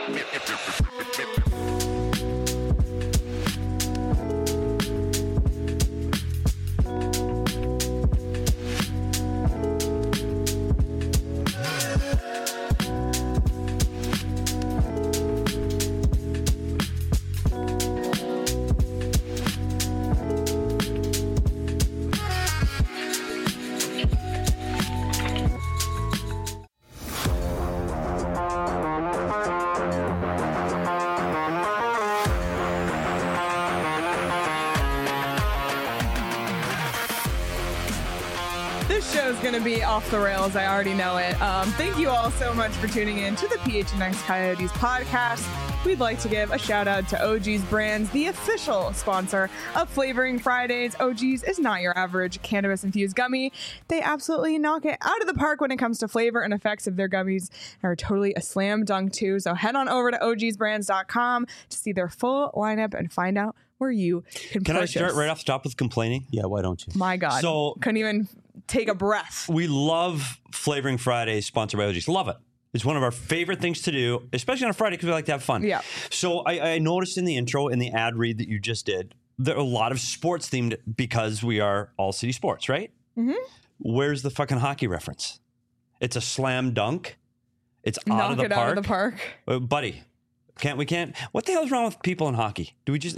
This show is going to be off the rails. I already know it. Thank you all so much for tuning in to the PHNX Coyotes podcast. We'd like to give a shout out to OG's Brands, the official sponsor of Flavoring Fridays. OG's is not your average cannabis-infused gummy. They absolutely knock it out of the park when it comes to flavor and effects of their gummies. Are totally a slam dunk too. So head on over to ogsbrands.com to see their full lineup and find out where you can purchase. I start right off the top with complaining? Yeah, why don't you? My God. So couldn't even take a breath. We love Flavoring Fridays, sponsored by OG's. Love it. It's one of our favorite things to do, especially on a Friday because we like to have fun. Yeah. So I noticed in the intro, in the ad read that you just did, there are a lot of sports themed because we are all city sports, right? Mm-hmm. Where's the fucking hockey reference? It's a slam dunk. It's Knock out of the it park. out of the park. Buddy, we can't. What the hell is wrong with people in hockey?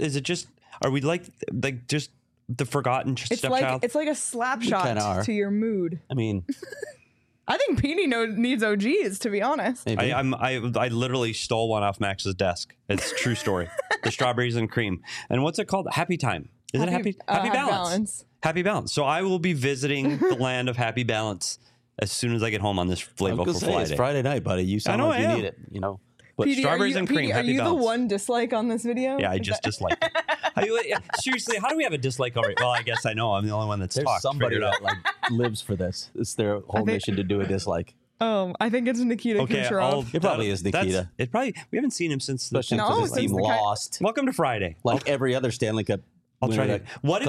Are we like just the forgotten stepchild? It's like a slap shot to your mood. I mean, I think Petey needs OGs, to be honest. I literally stole one off Max's desk. It's a true story. The strawberries and cream. And what's it called? Happy Time. Is it Happy Balance? Happy Balance. So I will be visiting the land of Happy Balance as soon as I get home on this Flavorful Friday. It's Friday night, buddy. You sound like you need it, you know. But Petey, strawberries and cream, Petey, Happy Balance. Are you the one dislike on this video? Yeah, I just disliked it. Seriously, how do we have a dislike already? Well, I guess I know. I'm the only one that's There's talked. somebody that lives for this. It's their whole mission to do a dislike. I think it's Nikita Kucherov. It probably is Nikita. We haven't seen him since the team lost. Welcome to Friday. Like every other Stanley Cup. I'll try to. What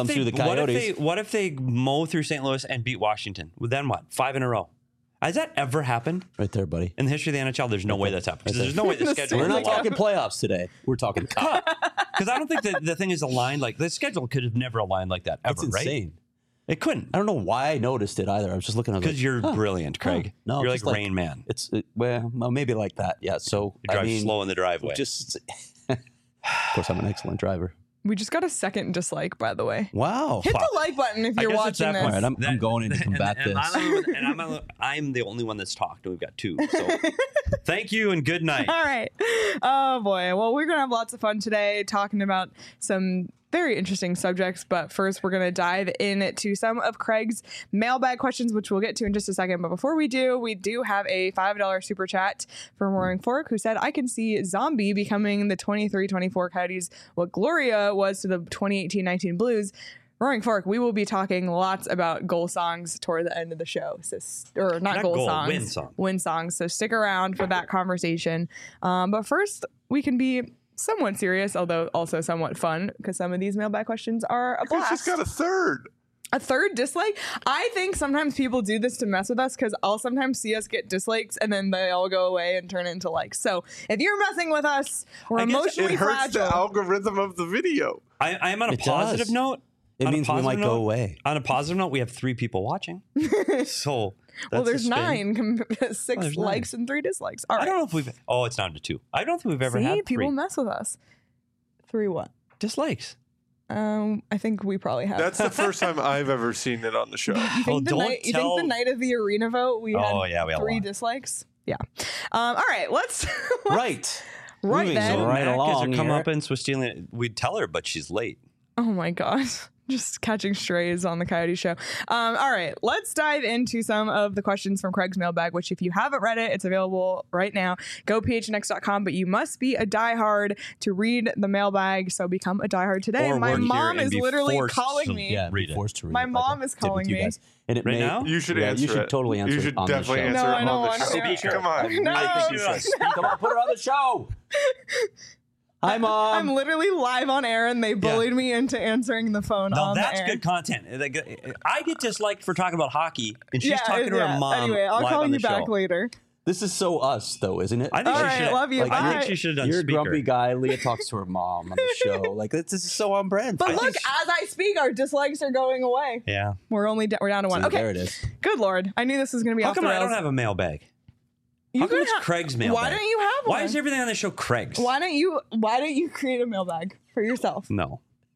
if they mow through St. Louis and beat Washington? Well, then what? 5 in a row. Has that ever happened? Right there, buddy. In the history of the NHL, there's no way that's happened. Because there's no way the schedule. We're not talking playoffs today. We're talking cup. Because I don't think the thing is aligned like the schedule could have never aligned like that ever. It's insane. Right? It couldn't. I don't know why I noticed it either. I was just looking at it. Because you're brilliant, Craig. No, you're like Rain Man. Well, maybe like that. Yeah. So you drive slow in the driveway. Of course, I'm an excellent driver. We just got a second dislike, by the way. Wow. Hit the like button if you're watching this. All right, I'm going in to combat this. I'm the only one that's talked. We've got 2. So thank you and good night. All right. Oh, boy. Well, we're going to have lots of fun today talking about some very interesting subjects. But first, we're going to dive into some of Craig's mailbag questions, which we'll get to in just a second. But before we do have a $5 super chat from Roaring Fork, who said, I can see Zombie becoming the 23-24 Coyotes what Gloria was to the 2018-19 Blues. Roaring Fork, we will be talking lots about goal songs toward the end of the show. Win songs. So stick around for that conversation. But first, we can be somewhat serious, although also somewhat fun, because some of these mailbag questions are a blast. She's got a third. A third dislike? I think sometimes people do this to mess with us because I'll sometimes see us get dislikes and then they all go away and turn into likes. So if you're messing with us, we're emotionally fragile. It hurts the algorithm of the video. I'm on a positive note. It means we might go away. On a positive note, we have 3 people watching. So well, there's 9, 6 likes and 3 dislikes. All right. I don't know if we've. Oh, it's down to 2. I don't think we've ever had 3. People mess with us. 3 what? Dislikes. I think we probably have. That's the first time I've ever seen it on the show. You think the night of the arena vote we had 3 dislikes? Yeah. All right. Let's. Right. Right then. So right along. Come up and stealing. We'd tell her, but she's late. Oh my God. Just catching strays on the Coyote Show. All right, let's dive into some of the questions from Craig's mailbag, which if you haven't read it, it's available right now. Go phnx.com, but you must be a diehard to read the mailbag, so become a diehard today. My mom is literally calling me. Yeah, be forced to read My mom is calling me. And it now? You should answer. You should totally answer. You should on definitely the show. answer No, on the show. Come on. No, I think you should. Come on, put her on the show. Hi, Mom. I'm literally live on air, and they bullied me into answering the phone on the air. That's good content. I get disliked for talking about hockey, and she's talking to her mom. Anyway, I'll call you back later. This is so us, though, isn't it? I think All she right, should. love you. I Bye. think she should have done You're speaker. a grumpy guy. Leah talks to her mom on the show. Like, this is so on brand. But look, as I speak, our dislikes are going away. Yeah. We're down to one. See, Okay. there it is. Good Lord. I knew this was going to be How off come the I rails. don't have a mailbag? You How come could it's ha- Craig's mailbag? Why don't you have one? Why is everything on the show Craig's? Why don't you create a mailbag for yourself? No.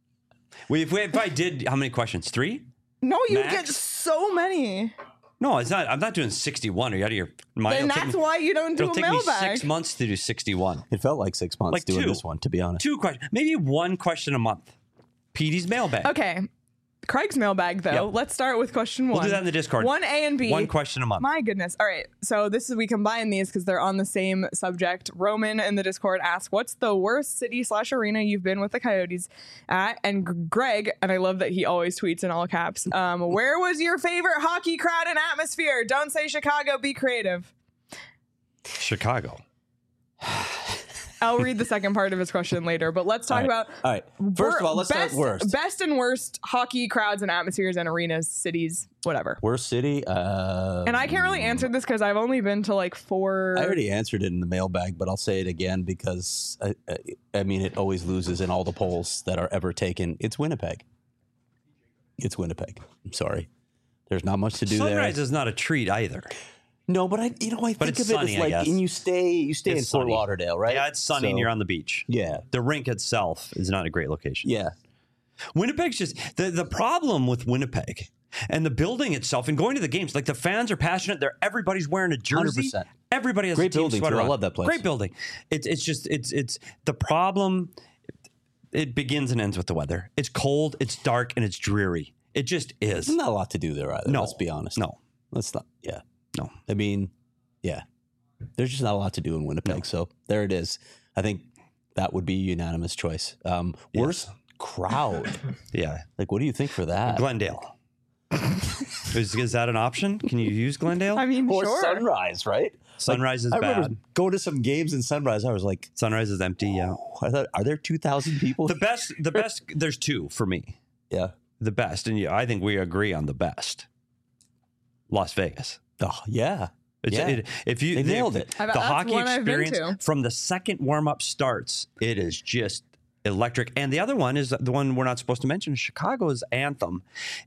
If I did, how many questions? 3? No, you Max? get so many. No, it's not. I'm not doing 61. Are you out of your mind? Then that's why you don't do It'll a take me mailbag. 6 months to do 61. It felt like 6 months Like doing 2. this one, to be honest. 2 questions. Maybe 1 question a month. Petey's mailbag. Okay. Craig's mailbag, though. Yep. Let's start with question 1. We'll do that in the Discord. 1 A and B. 1 question a month. My goodness. All right. So we combine these because they're on the same subject. Roman in the Discord asked, what's the worst city/arena you've been with the Coyotes at? And Greg, and I love that he always tweets in all caps, where was your favorite hockey crowd and atmosphere? Don't say Chicago, be creative. Chicago. I'll read the second part of his question later, but let's talk about All right. First of all, let's start worst. Best and worst hockey crowds and atmospheres and arenas, cities, whatever. Worst city? And I can't really answer this because I've only been to like 4. I already answered it in the mailbag, but I'll say it again because, I mean, it always loses in all the polls that are ever taken. It's Winnipeg. It's Winnipeg. I'm sorry. There's not much to do Sunrise there. is not a treat either. No, but I think it's of sunny, it as I like, guess. and you stay in It's Fort sunny. Lauderdale, right? Yeah, it's sunny and So, you're on the beach. Yeah. The rink itself is not a great location. Yeah. Winnipeg's just the problem with Winnipeg and the building itself and going to the games. Like the fans are passionate. Everybody's wearing a jersey. 100%. Everybody has Great a team building, sweater too. I on. love that place. Great building. It's the problem. It begins and ends with the weather. It's cold. It's dark and it's dreary. It just is. There's not a lot to do there either. No. Let's be honest. No. Let's not. Yeah. No. I mean, yeah. There's just not a lot to do in Winnipeg. So there it is. I think that would be a unanimous choice. Worst crowd. Yeah. Like, what do you think for that? Glendale. Is that an option? Can you use Glendale? I mean, Or sure. Sunrise, right? Sunrise is I remember bad. going to some games in Sunrise. I was like, Sunrise is empty. Yeah. I thought, are there 2,000 people? The best. There's 2 for me. Yeah. The best, and I think we agree on the best. Las Vegas. Oh, yeah. If you They nailed it. the That's hockey one I've been experience to. from the second warm up starts, it is just electric. And the other one is the one we're not supposed to mention, Chicago's Anthem.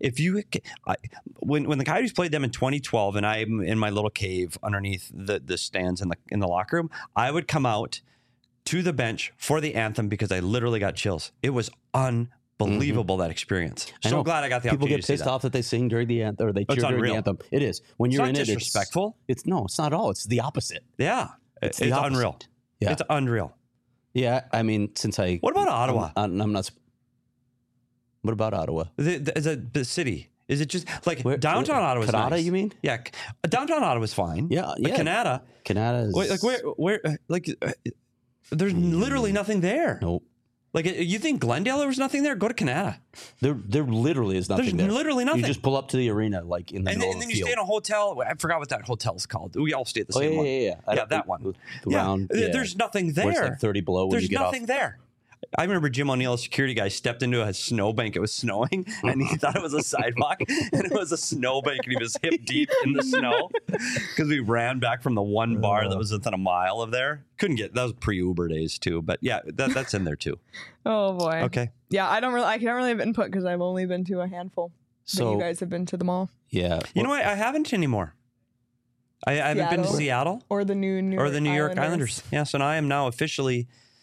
When the Coyotes played them in 2012, and I'm in my little cave underneath the stands in the locker room, I would come out to the bench for the Anthem because I literally got chills. It was unbelievable, that experience. I So know. glad I got the People opportunity get pissed to see that. off that they sing during the anthem or they cheer It's during unreal. the anthem. It is. When you're not in it, disrespectful. it's not at all. It's the opposite. Yeah. It's It's the opposite. unreal. Yeah. It's unreal. Yeah. I mean, since I. What about Ottawa? I'm not. What about Ottawa? The city. Is it just like Where- downtown Ottawa? Canada, nice. you mean? Yeah, downtown Ottawa's fine. Yeah, but yeah. Canada, Canada is. like where, there's literally nothing there. Nope. Like you think Glendale there was nothing there? Go to Canada. There literally is nothing There's there. literally nothing. You just pull up to the arena, like in the And middle then of you the stay field. in a hotel. I forgot what that hotel's called. We all stay at the Oh, same yeah, one. yeah. Yeah, that one. The round. Yeah. There's nothing Where it's there. like 30 below when There's you get nothing off. there. I remember Jim O'Neill, a security guy, stepped into a snowbank. It was snowing, and he thought it was a sidewalk, and it was a snowbank, and he was hip deep in the snow because we ran back from the one bar that was within a mile of there. Couldn't get that was pre-Uber days too, but yeah, that's in there too. Oh boy. Okay. Yeah, I can't really have input because I've only been to a handful. But So you guys have been to them all, yeah. You know what? I haven't anymore. I haven't been to Seattle or the New York Islanders. Yes, and I am now officially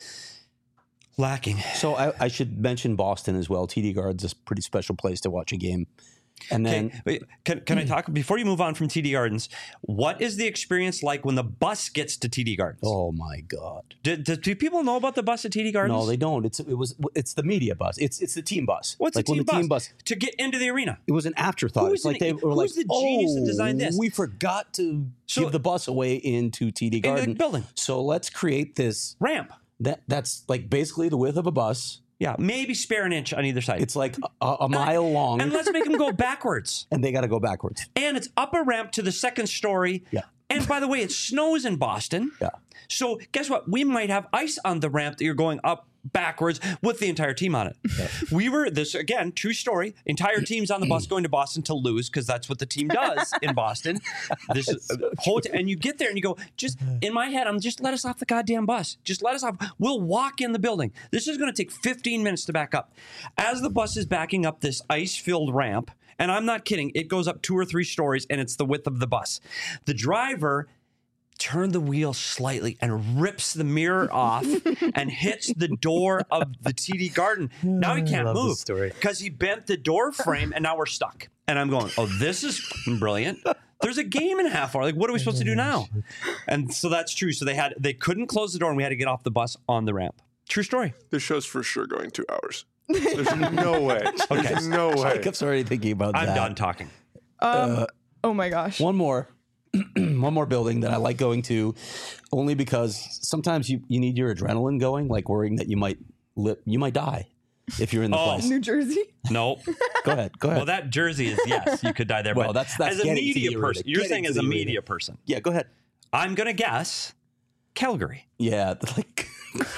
lacking. So I should mention Boston as well. TD Garden's a pretty special place to watch a game. And then Okay, wait, can I talk before you move on from TD Gardens? What is the experience like when the bus gets to TD Gardens? oh my God. Do people know about the bus at TD Gardens? No, they don't. It's the media bus. It's the team bus. What's like the when team bus? To get into the arena? It was an afterthought. Who's It's like the- they were who's like, the genius that designed this? We forgot to So- give the bus away into TD Into Garden the building. So let's create this. Ramp. That's like basically the width of a bus. Yeah, maybe spare an inch on either side. It's like a mile long, And let's make them go backwards. and they got to go backwards. And it's up a ramp to the second story. Yeah. And by the way, it snows in Boston. Yeah. So guess what? We might have ice on the ramp that you're going up backwards with the entire team on it. We were, this again, true story, entire team's on the bus going to Boston to lose because that's what the team does in Boston. This is and you get there and you go, just in my head, I'm just let us off the goddamn bus. Just let us off. We'll walk in the building. This is going to take 15 minutes to back up. As the bus is backing up this ice-filled ramp, and I'm not kidding, it goes up 2 or 3 stories and it's the width of the bus. The driver turned the wheel slightly and rips the mirror off and hits the door of the TD Garden. Now he can't move because he bent the door frame and now we're stuck. And I'm going, oh, this is brilliant. There's a game in a half hour. Like, what are we supposed to do now? And so that's true. So they couldn't close the door and we had to get off the bus on the ramp. True story. This show's for sure going 2 hours. There's no way. Okay. There's no way. Jacob's already thinking about that. I'm done talking. Oh my gosh. One more building that I like going to, only because sometimes you need your adrenaline going, like worrying that you might die if you're in the place. New Jersey? No. Go ahead. Well, that Jersey is, yes, you could die there. Well, but that's as a media person. You're saying as a media person. Yeah, go ahead. I'm going to guess Calgary. Yeah, like...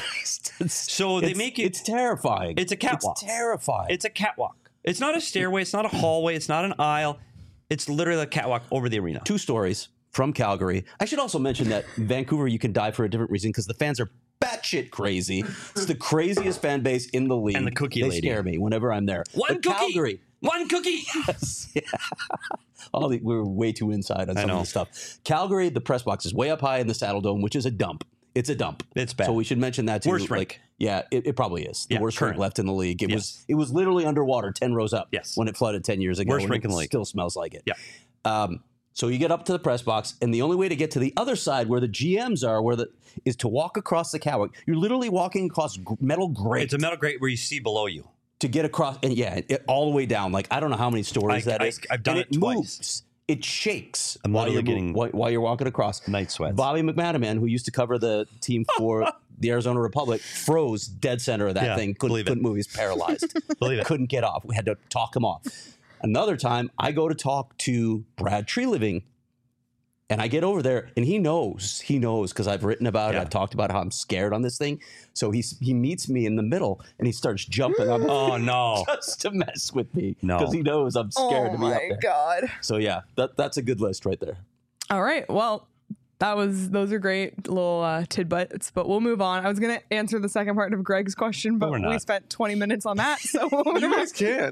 So they make it... It's terrifying. It's a catwalk. It's terrifying. It's a catwalk. It's not a stairway. It's not a hallway. It's not an aisle. It's literally a catwalk over the arena. 2 stories from Calgary. I should also mention that Vancouver, you can die for a different reason because the fans are batshit crazy. It's the craziest fan base in the league. And the cookie they lady. Scare me whenever I'm there. One cookie. Calgary. One cookie. Yes. Yeah. We're way too inside on some of this stuff. Calgary, the press box is way up high in the Saddle Dome, which is a dump. It's a dump. It's bad. So we should mention that too. Worst rink. Yeah, it probably is. The worst current. rink left in the league. It was literally underwater 10 rows up when it flooded 10 years ago. Worst rink in the league. Still smells like it. Yeah. So you get up to the press box, and the only way to get to the other side where the GMs are, is to walk across the catwalk. You're literally walking across metal grate. It's a metal grate where you see below you. To get across, and all the way down. Like, I don't know how many stories that is. I've done it twice. Moves. It shakes while you're walking across. Night sweats. Bobby McManaman, who used to cover the team for the Arizona Republic, froze dead center of that thing. Couldn't move. He's paralyzed. Believe it. Couldn't get off. We had to talk him off. Another time, I go to talk to Brad Treliving, and I get over there, and he knows because I've written about it. I've talked about how I'm scared on this thing. So he meets me in the middle, and he starts jumping on the Oh, no. just to mess with me No. because he knows I'm scared to be up there. Oh, my God. So, yeah, that's a good list right there. All right. Well, those are great little tidbits, but we'll move on. I was going to answer the second part of Greg's question, but we spent 20 minutes on that. So you guys can.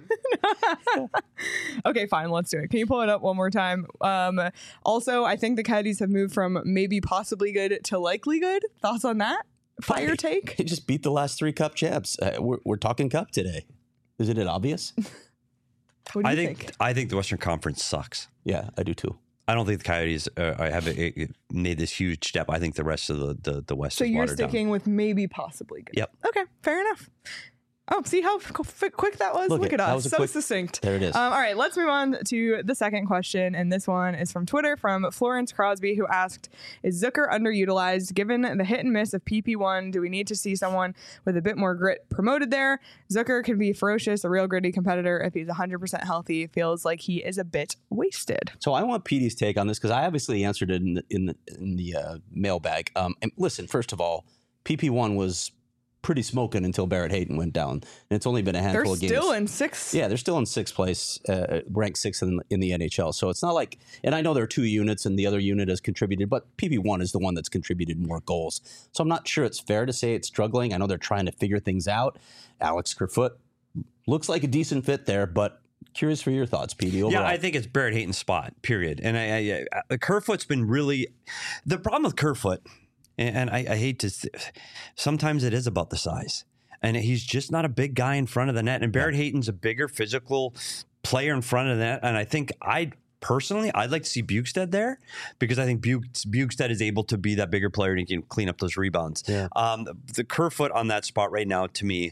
Okay, fine. Let's do it. Can you pull it up one more time? Also, I think the Coyotes have moved from maybe possibly good to likely good. Thoughts on that? Fire take? They just beat the last 3 Cup champs. We're talking Cup today. Isn't it obvious? What do you think? I think the Western Conference sucks. Yeah, I do too. I don't think the Coyotes have made this huge step. I think the rest of the West is watered down. So you're sticking with maybe possibly good. Yep. Okay, fair enough. Oh, see how quick that was? Look at us. So succinct. There it is. All right, let's move on to the second question. And this one is from Twitter from Florence Crosby, who asked, is Zucker underutilized? Given the hit and miss of PP1, do we need to see someone with a bit more grit promoted there? Zucker can be ferocious, a real gritty competitor. If he's 100% healthy, feels like he is a bit wasted. So I want Petey's take on this because I obviously answered it in the mailbag. And listen, first of all, PP1 was pretty smoking until Barrett Hayton went down, and it's only been a handful of games. They're still in 6th. Yeah, they're still in 6th place, ranked 6th in the NHL. So it's not like, and I know there are 2 units, and the other unit has contributed, but PP1 is the one that's contributed more goals. So I'm not sure it's fair to say it's struggling. I know they're trying to figure things out. Alex Kerfoot looks like a decent fit there, but curious for your thoughts, Petey. Overall. Yeah, I think it's Barrett Hayton's spot. Period. And Kerfoot's been really the problem with Kerfoot. And I hate to, sometimes it is about the size. And he's just not a big guy in front of the net. And Barrett Hayton's a bigger physical player in front of the net. And I think I'd like to see Bukestad there because I think Bukestad is able to be that bigger player and he can clean up those rebounds. Yeah. The Kerfoot on that spot right now, to me,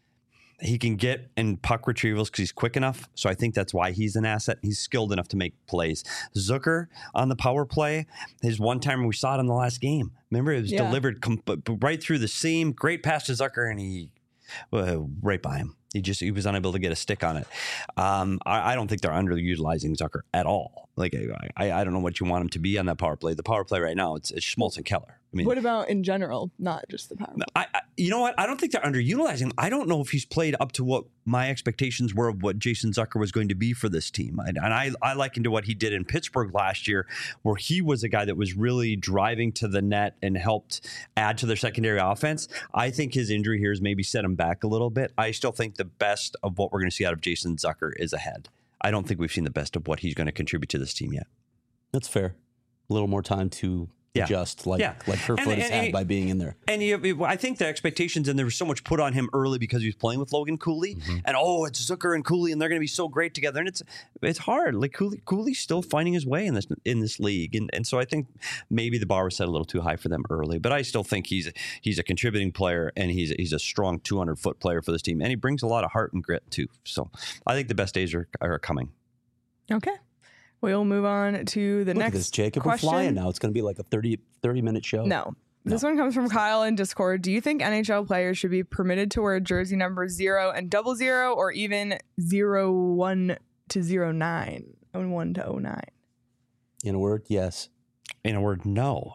he can get in puck retrievals because he's quick enough. So I think that's why he's an asset. He's skilled enough to make plays. Zucker on the power play, his one time we saw it in the last game. Remember, it was delivered right through the seam. Great pass to Zucker, and he right by him. He was unable to get a stick on it. I don't think they're underutilizing Zucker at all. Like I don't know what you want him to be on that power play. The power play right now, it's Schmaltz and Keller. I mean, what about in general, not just the power play? You know what? I don't think they're underutilizing him. I don't know if he's played up to what my expectations were of what Jason Zucker was going to be for this team. And I likened to what he did in Pittsburgh last year, where he was a guy that was really driving to the net and helped add to their secondary offense. I think his injury here has maybe set him back a little bit. I still think the best of what we're going to see out of Jason Zucker is ahead. I don't think we've seen the best of what he's going to contribute to this team yet. That's fair. A little more time to adjust, like Kerfoot has had by being in there. And I think the expectations, and there was so much put on him early because he was playing with Logan Cooley, and it's Zucker and Cooley, and they're going to be so great together. And it's hard. Like Cooley's still finding his way in this league, and so I think maybe the bar was set a little too high for them early. But I still think he's a contributing player, and he's a strong 200-foot player for this team, and he brings a lot of heart and grit too. So I think the best days are coming. Okay. We'll move on to the next at this, Jacob. question. We're flying now. It's going to be like a 30-minute show. No. This one comes from Kyle in Discord. Do you think NHL players should be permitted to wear jersey numbers 0 and 00 or even 01 to 09 and 1 to 09? In a word, yes. In a word, no.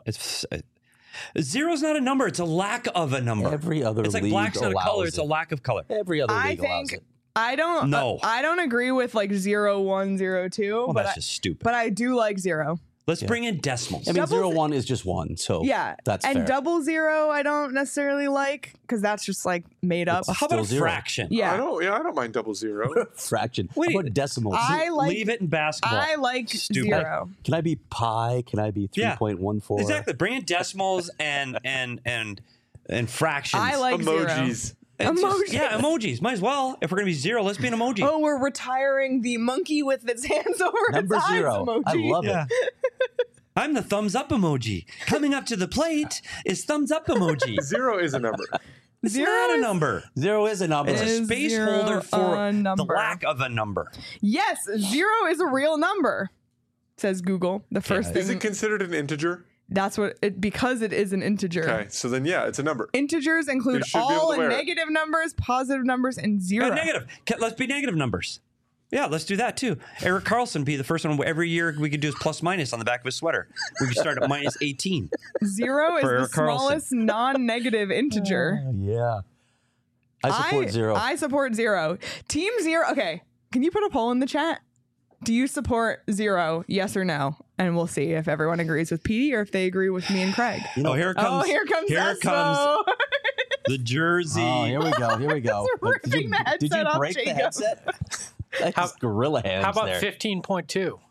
Zero's not a number. It's a lack of a number. Every other league allows black's not a color. It's a lack of color. Every other league allows it. I don't agree with like 0, 1, 0, 2. Well, that's just stupid. But I do like 0. Let's bring in decimals. I mean, 0-1 is just 1, so that's fair. And 00 I don't necessarily like because that's just like made up. How about a fraction? Yeah, I don't mind 00. Fraction. How about decimals? Leave it in basketball. I like 0. Can I be pi? Can I be 3.14? Exactly. Bring in decimals and fractions. I like emojis. 0. Emojis. Emojis. Might as well. If we're going to be 0, let's be an emoji. Oh, we're retiring the monkey with its hands over Number its 0. eyes emoji. I love it. I'm the thumbs up emoji. Coming up to the plate is thumbs up emoji. 0 is a number. It's not a number. 0 is a number. It's a space holder for the lack of a number. Yes, 0 is a real number, says Google. The first thing. Is it considered an integer? That's because it is an integer. Okay, so then it's a number. Integers include all negative numbers, positive numbers, and 0. Negative. Let's be negative numbers. Yeah, let's do that too. Eric Carlson be the first one. Every year we could do his plus minus on the back of his sweater. We could start at minus 18. 0 is the smallest non-negative integer. Yeah. I support 0. I support 0. Team 0. Okay, can you put a poll in the chat? Do you support 0? Yes or no? And we'll see if everyone agrees with Petey or if they agree with me and Craig. Here it comes the jersey. Oh, here we go. Did you break the headset? That's gorilla hands. How about there. 15.2? No,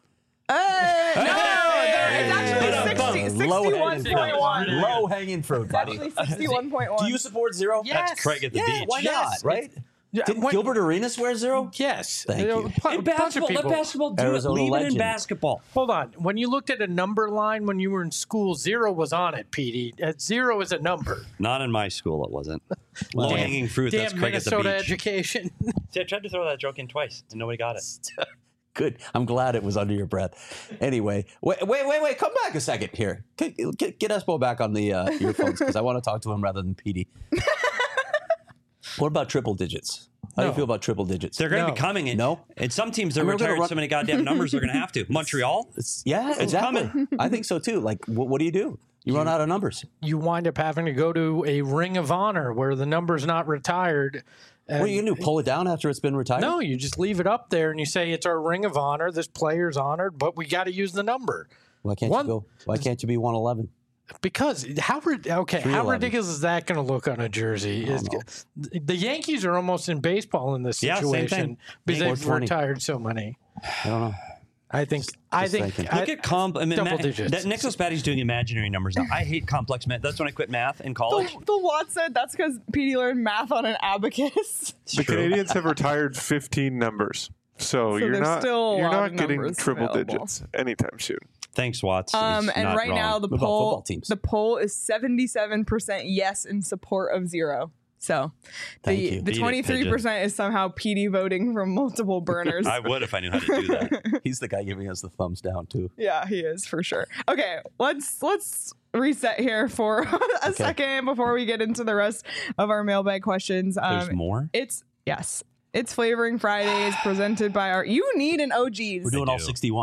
it's actually 61.1. Low hanging fruit, buddy. 61.1. Do you support 0? Yes. That's Craig at the beach. Why not? Right? Didn't Gilbert Arenas wear 0? Yes. Thank you. In basketball, let basketball do Arizona it. Leave legend. it in basketball. Hold on. When you looked at a number line when you were in school, 0 was on it, Petey. 0 is a number. Not in my school, it wasn't. Low-hanging fruit, that's Craig at the beach. Minnesota education. See, I tried to throw that joke in twice, and nobody got it. Good. I'm glad it was under your breath. Anyway, wait. Come back a second here. Get Espo back on the earphones because I want to talk to him rather than Petey. What about triple digits? How do you feel about triple digits? They're going to be coming in. No. And some teams are retired so many goddamn numbers they're going to have to. Montreal? Exactly. coming. I think so too. Like, what do? You run out of numbers. You wind up having to go to a Ring of Honor where the number's not retired. What are you going to do? Pull it down after it's been retired? No, you just leave it up there and you say it's our Ring of Honor. This player's honored, but we got to use the number. Why can't you be 111? Because how ridiculous is that going to look on a jersey? The Yankees are almost in baseball in this situation because they've retired so many. I don't know. I think. Look at double digits. Nicholas Batty's doing imaginary numbers now. I hate complex math. That's when I quit math in college. The Watt said that's because Petey learned math on an abacus. The Canadians have retired 15 numbers, so you're not getting triple digits anytime soon. Thanks, Watts. And right wrong. now the poll is 77% yes in support of 0. So the 23% is somehow Petey voting from multiple burners. I would if I knew how to do that. He's the guy giving us the thumbs down too. Yeah, he is for sure. Okay, let's reset here for a second before we get into the rest of our mailbag questions. There's more? It's Flavoring Fridays presented by you need an OGs. We're doing all 61, buddy.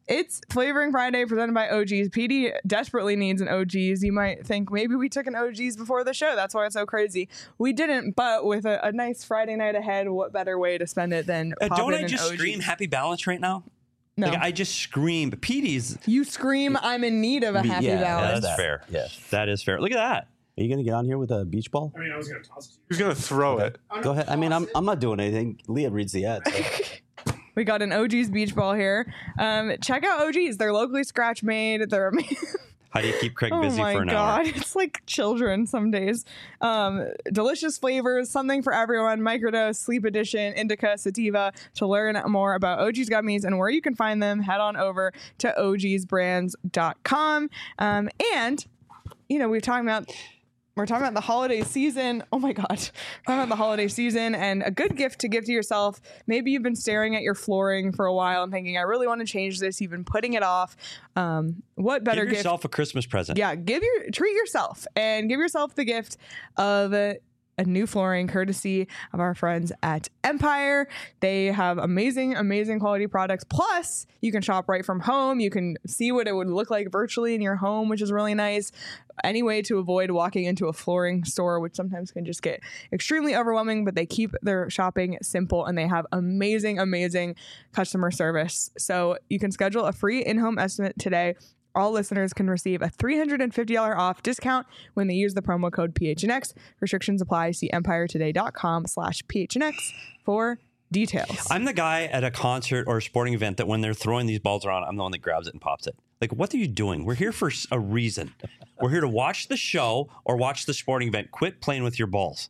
It's Flavoring Friday presented by OG's. PD desperately needs an OG's. You might think maybe we took an OG's before the show. That's why it's so crazy. We didn't, but with a nice Friday night ahead, what better way to spend it than pop don't in I just an scream Happy Balance right now? No. Like, I just scream. PD's. You scream, I'm in need of a Happy Balance. That's fair. Yeah, that is fair. Look at that. Are you going to get on here with a beach ball? I mean, I was going to toss it. He was going to throw it. Go ahead. I mean, I'm not doing anything. Leah reads the ad. So. We got an OG's beach ball here. Check out OG's. They're locally scratch made. They're amazing. How do you keep Craig busy for an hour? Oh my God, it's like children some days. Delicious flavors, something for everyone. Microdose, Sleep Edition, Indica, Sativa. To learn more about OG's gummies and where you can find them, head on over to ogsbrands.com. And, you know, we're talking about the holiday season. Oh my God. We're talking about the holiday season and a good gift to give to yourself. Maybe you've been staring at your flooring for a while and thinking, I really want to change this. You've been putting it off. What better gift? Give yourself a Christmas present. Yeah. Treat yourself and give yourself the gift of a new flooring courtesy of our friends at Empire. They have amazing, amazing quality products. Plus, you can shop right from home. You can see what it would look like virtually in your home, which is really nice. Any way to avoid walking into a flooring store, which sometimes can just get extremely overwhelming, but they keep their shopping simple and they have amazing, amazing customer service. So you can schedule a free in-home estimate today. All listeners can receive a $350 off discount when they use the promo code PHNX. Restrictions apply. See empiretoday.com/PHNX for details. I'm the guy at a concert or a sporting event that when they're throwing these balls around, I'm the one that grabs it and pops it. Like, what are you doing? We're here for a reason. We're here to watch the show or watch the sporting event. Quit playing with your balls.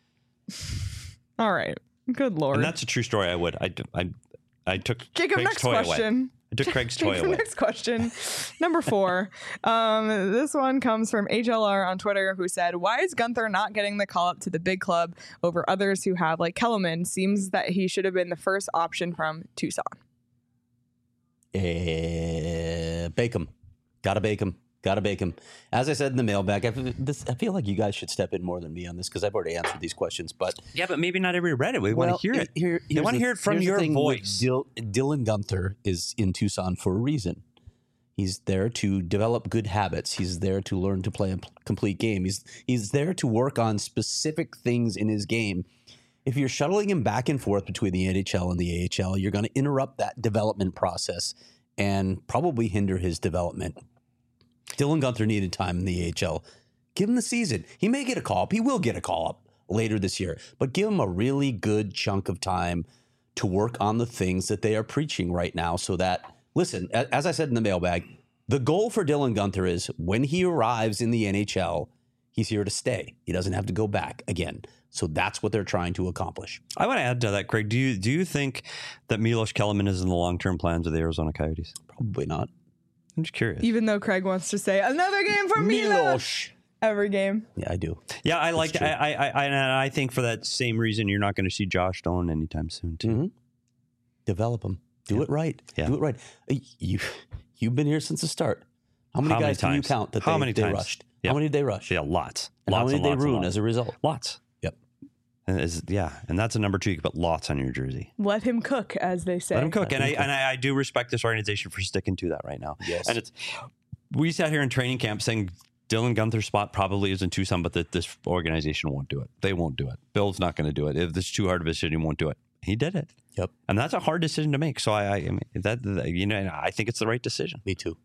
All right. Good Lord. And that's a true story. I took Jacob, Craig's next toy question. Away. I took Craig's toy away. Next question. Number 4. This one comes from HLR on Twitter, who said, why is Gunther not getting the call up to the big club over others who have, like Kellerman? Seems that he should have been the first option from Tucson. Bake him. Gotta bake him. As I said in the mailbag, I feel like you guys should step in more than me on this because I've already answered these questions. But yeah, but maybe not everybody read it. We want to hear it. They want to hear it from your voice. Dylan Gunther is in Tucson for a reason. He's there to develop good habits. He's there to learn to play a complete game. He's there to work on specific things in his game. If you're shuttling him back and forth between the NHL and the AHL, you're going to interrupt that development process and probably hinder his development. Dylan Gunther needed time in the AHL. Give him the season. He may get a call up. He will get a call up later this year. But give him a really good chunk of time to work on the things that they are preaching right now so that, listen, as I said in the mailbag, the goal for Dylan Gunther is when he arrives in the NHL, he's here to stay. He doesn't have to go back again. So that's what they're trying to accomplish. I want to add to that, Craig. Do you think that Milos Kellerman is in the long-term plans of the Arizona Coyotes? Probably not. I'm just curious. Even though Craig wants to say another game for Milos every game. Yeah, I do. Yeah, I like. I think for that same reason, you're not going to see Josh Dolan anytime soon, too. Mm-hmm. Develop him. Do it right. Yeah. Do it right. You've been here since the start. How many guys can you count that they rushed? Yep. How many did they rush? Yeah, lots. And lots how many and did lots they ruin as a result? Lots. Yep. And that's a number 2. You can put lots on your jersey. Let him cook, as they say. Let him cook. I do respect this organization for sticking to that right now. Yes. And we sat here in training camp saying Dylan Gunther's spot probably is in Tucson, but that this organization won't do it. They won't do it. Bill's not going to do it. If this is too hard of a decision, he won't do it. He did it. Yep. And that's a hard decision to make. So I mean I think it's the right decision. Me too.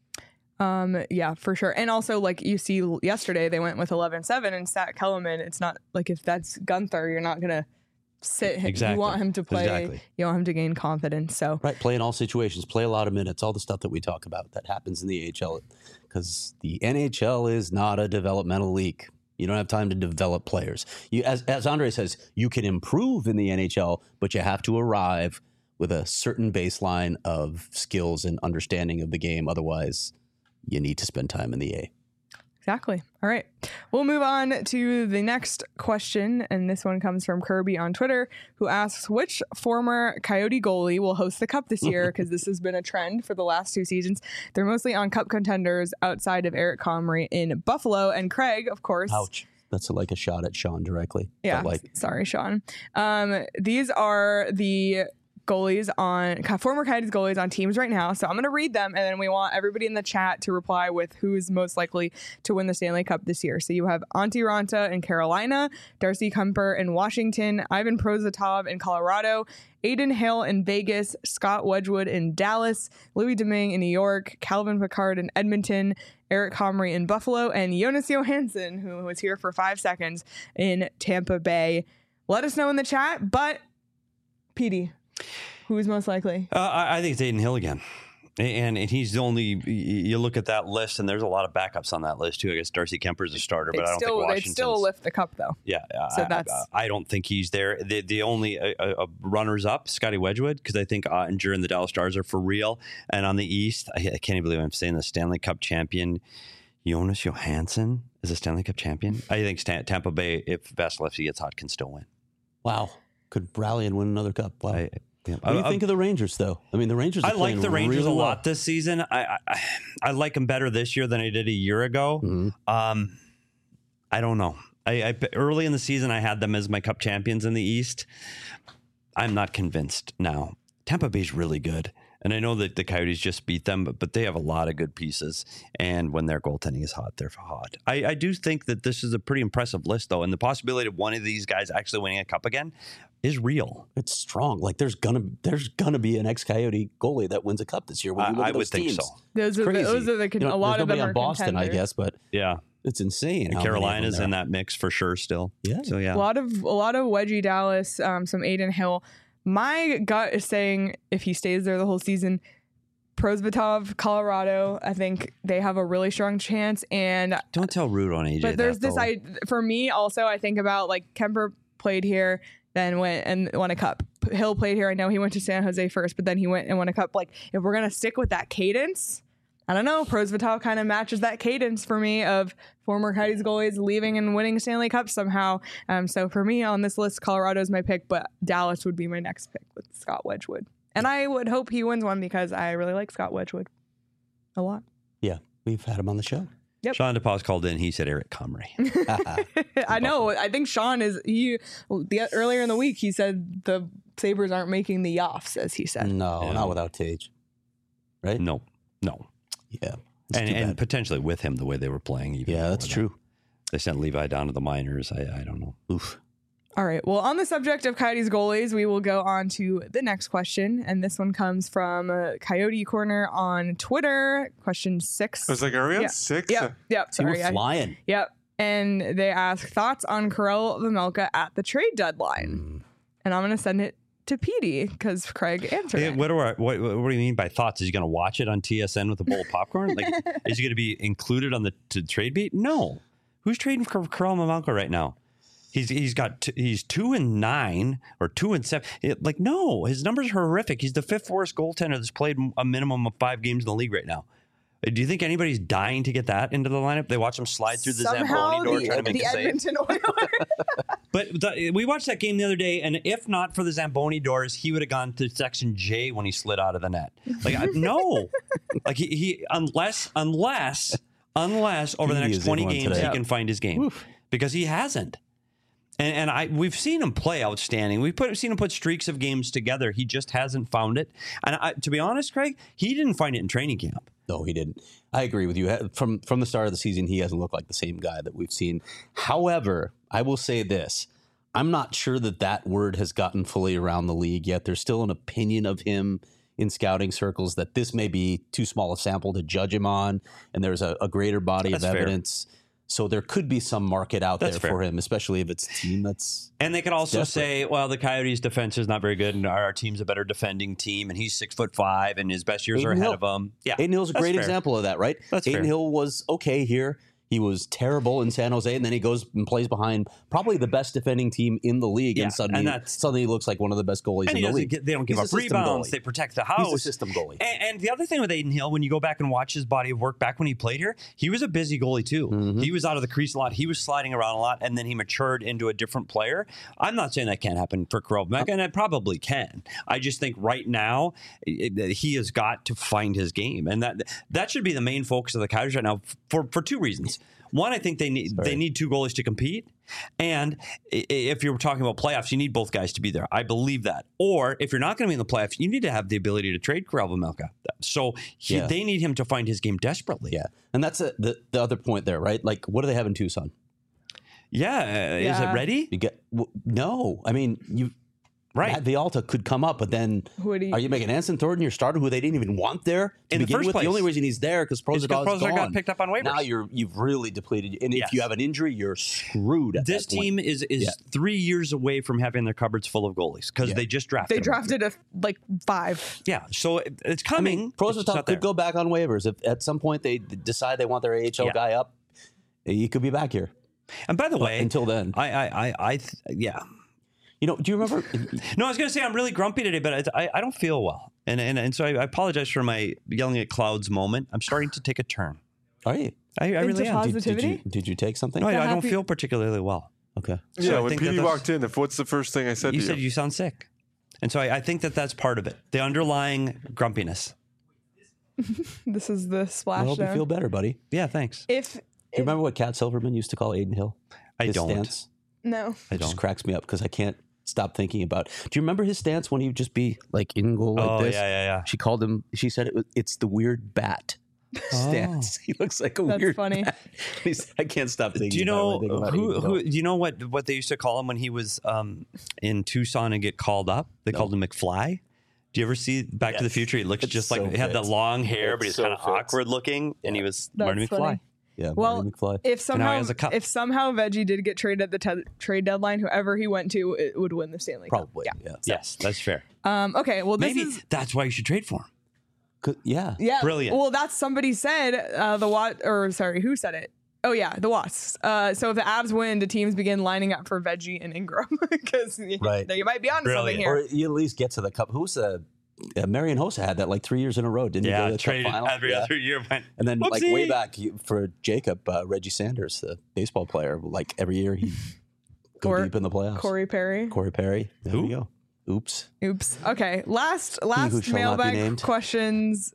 Yeah, for sure. And also, like you see yesterday, they went with 11-7 and sat Kellerman. It's not like if that's Gunther, you're not going to sit him. Exactly. You want him to play. Exactly. You want him to gain confidence. So right, play in all situations, play a lot of minutes, all the stuff that we talk about that happens in the AHL, because the NHL is not a developmental league. You don't have time to develop players. As Andre says, you can improve in the NHL, but you have to arrive with a certain baseline of skills and understanding of the game. Otherwise, you need to spend time in the A. Exactly. All right. We'll move on to the next question. And this one comes from Kirby on Twitter, who asks, which former Coyote goalie will host the Cup this year? Because this has been a trend for the last 2 seasons. They're mostly on Cup contenders outside of Eric Comrie in Buffalo. And Craig, of course. Ouch. That's like a shot at Sean directly. Yeah. Sorry, Sean. These are the goalies former Coyotes goalies on teams right now. So I'm going to read them, and then we want everybody in the chat to reply with who is most likely to win the Stanley Cup this year. So you have Antti Raanta in Carolina, Darcy Kuemper in Washington, Ivan Prosvetov in Colorado, Adin Hill in Vegas, Scott Wedgwood in Dallas, Louis Domingue in New York, Calvin Pickard in Edmonton, Eric Comrie in Buffalo, and Jonas Johansson, who was here for 5 seconds, in Tampa Bay. Let us know in the chat, but Petey, who is most likely? I think it's Adin Hill again. And he's the only, you look at that list, and there's a lot of backups on that list, too. I guess Darcy Kemper's a starter, but I don't think Washington's. They'd still lift the cup, though. Yeah. So I don't think he's there. The only runners-up, Scotty Wedgwood, because I think Ottinger and the Dallas Stars are for real. And on the East, I can't even believe I'm saying the Stanley Cup champion, Jonas Johansson is a Stanley Cup champion. I think Tampa Bay, if Vasilevsky gets hot, can still win. Wow. Could rally and win another cup. Wow. What do you think of the Rangers, though? I mean, the Rangers. I like the Rangers really a lot this season. I like them better this year than I did a year ago. Mm-hmm. I don't know. I early in the season, I had them as my Cup champions in the East. I'm not convinced now. Tampa Bay's really good, and I know that the Coyotes just beat them, but they have a lot of good pieces. And when their goaltending is hot, they're hot. I do think that this is a pretty impressive list, though, and the possibility of one of these guys actually winning a Cup again is real. It's strong. Like there's gonna be an ex-Coyote goalie that wins a Cup this year. When you look at those teams. Think so. Those are a lot of them are Boston, contenders. I guess, but yeah, it's insane. And Carolina's in that mix for sure still. Yeah. So yeah, a lot of wedgie Dallas, some Adin Hill. My gut is saying if he stays there the whole season, Prosvetov, Colorado, I think they have a really strong chance. And don't tell Rude on AJ. But there's this. For me also, I think about like Kemper played here, then went and won a Cup. Hill played here. I know he went to San Jose first, but then he went and won a Cup. Like, if we're going to stick with that cadence, I don't know. Prosvetov kind of matches that cadence for me of former Coyotes goalies leaving and winning Stanley Cup somehow. So for me on this list, Colorado's my pick, but Dallas would be my next pick with Scott Wedgwood. And I would hope he wins one because I really like Scott Wedgwood a lot. Yeah, we've had him on the show. Yep. Sean DePaz called in. He said Eric Comrie. I know. I think Sean earlier in the week, he said the Sabres aren't making the offs, as he said. No, not without Tage. Right? No. Yeah. And potentially with him the way they were playing. Yeah, that's true. They sent Levi down to the minors. I don't know. Oof. All right. Well, on the subject of Coyotes goalies, we will go on to the next question. And this one comes from Coyote Corner on Twitter. Question 6. I was like, are we on 6? Yep. Sorry. We're flying. Yep. And they ask thoughts on Karel Vejmelka at the trade deadline. And I'm going to send it to Petey because Craig answered it. What do you mean by thoughts? Is he going to watch it on TSN with a bowl of popcorn? Like, is he going to be included on the trade beat? No. Who's trading for Karel Vejmelka right now? He's 2-9 or 2-7. No, his numbers are horrific. He's the 5th worst goaltender that's played a minimum of 5 games in the league right now. Do you think anybody's dying to get that into the lineup? They watch him slide through the Zamboni door trying to make a save. Edmonton Oilers. But we watched that game the other day, and if not for the Zamboni doors, he would have gone to section J when he slid out of the net. No, like he unless over the next 20 games he can find his game. Because he hasn't. And we've seen him play outstanding. We've seen him put streaks of games together. He just hasn't found it. And to be honest, Craig, he didn't find it in training camp. No, he didn't. I agree with you. From the start of the season, he hasn't looked like the same guy that we've seen. However, I will say this. I'm not sure that word has gotten fully around the league yet. There's still an opinion of him in scouting circles that this may be too small a sample to judge him on, and there's a greater body of evidence. So there could be some market out there for him, especially if it's a team that's And they could also desperate. say, well, the Coyotes' defense is not very good, and our team's a better defending team, and he's 6'5", and his best years are ahead of him. Yeah, Adin Hill's a great example of that, right? Adin Hill was okay here. He was terrible in San Jose, and then he goes and plays behind probably the best defending team in the league, and suddenly he looks like one of the best goalies in the league. They don't give up rebounds. They protect the house. He's a system goalie. And the other thing with Adin Hill, when you go back and watch his body of work back when he played here, he was a busy goalie too. Mm-hmm. He was out of the crease a lot. He was sliding around a lot, and then he matured into a different player. I'm not saying that can't happen for Karel Vejmelka, and it probably can. I just think right now he has got to find his game, and that should be the main focus of the Coyotes right now for 2 reasons. One, I think they need two goalies to compete. And if you're talking about playoffs, you need both guys to be there. I believe that. Or if you're not going to be in the playoffs, you need to have the ability to trade Karel Vejmelka. So they need him to find his game desperately. Yeah. And that's the other point there, right? Like, what do they have in Tucson? Yeah. Is it ready? No. I mean, Matt Villalta could come up, but then are you making Anson Thornton your starter, who they didn't even want there to begin with? The only reason he's there because Prosvetov got picked up on waivers. Now you've really depleted. And if you have an injury, you're screwed. This team is 3 years away from having their cupboards full of goalies because they just drafted. They drafted 5. Yeah, so it's coming. I mean, Prosvetov could go back on waivers if at some point they decide they want their AHL guy up. He could be back here. And by the way, until then, You know, do you remember? No, I was going to say I'm really grumpy today, but I don't feel well. And so I apologize for my yelling at clouds moment. I'm starting to take a turn. Are you? I really am. Did you take something? No, I don't feel particularly well. Okay. So yeah, when Petey walked in, what's the first thing I said to you? You said you sound sick. And so I think that's part of it. The underlying grumpiness. This is the splash. I hope you feel better, buddy. Yeah, thanks. Do you remember what Cat Silverman used to call Aiden Hill? I don't. Stance? No. It just cracks me up because I can't stop thinking about. Do you remember his stance when he would just be like in goal like this? Yeah. She called him. She said it's the weird bat stance. He looks like a weird. That's funny. I can't stop thinking. Do you know who? Do you know what they used to call him when he was in Tucson and get called up? They called him McFly. Do you ever see Back to the Future? He looks just like he had that long hair, but he's kind of awkward looking, and he was Marty McFly. Yeah, well, if somehow Veggie did get traded at the trade deadline, whoever he went to, it would win the Stanley Cup. Probably, yeah. Yes, that's fair. Okay, well, maybe that's why you should trade for him. Yeah, brilliant. Well, that's somebody said who said it? Oh yeah, the Wasps. So if the Avs win, the teams begin lining up for Veggie and Ingram because you might be onto something here. Or you at least get to the Cup. Who's Marian Hossa had that like 3 years in a row, didn't he? Go to the Cup final? Every other year. And then like way back for Jacob, Reggie Sanders, the baseball player, like every year he go deep in the playoffs. Corey Perry. There we go. Oops. Okay. Last mailbag questions.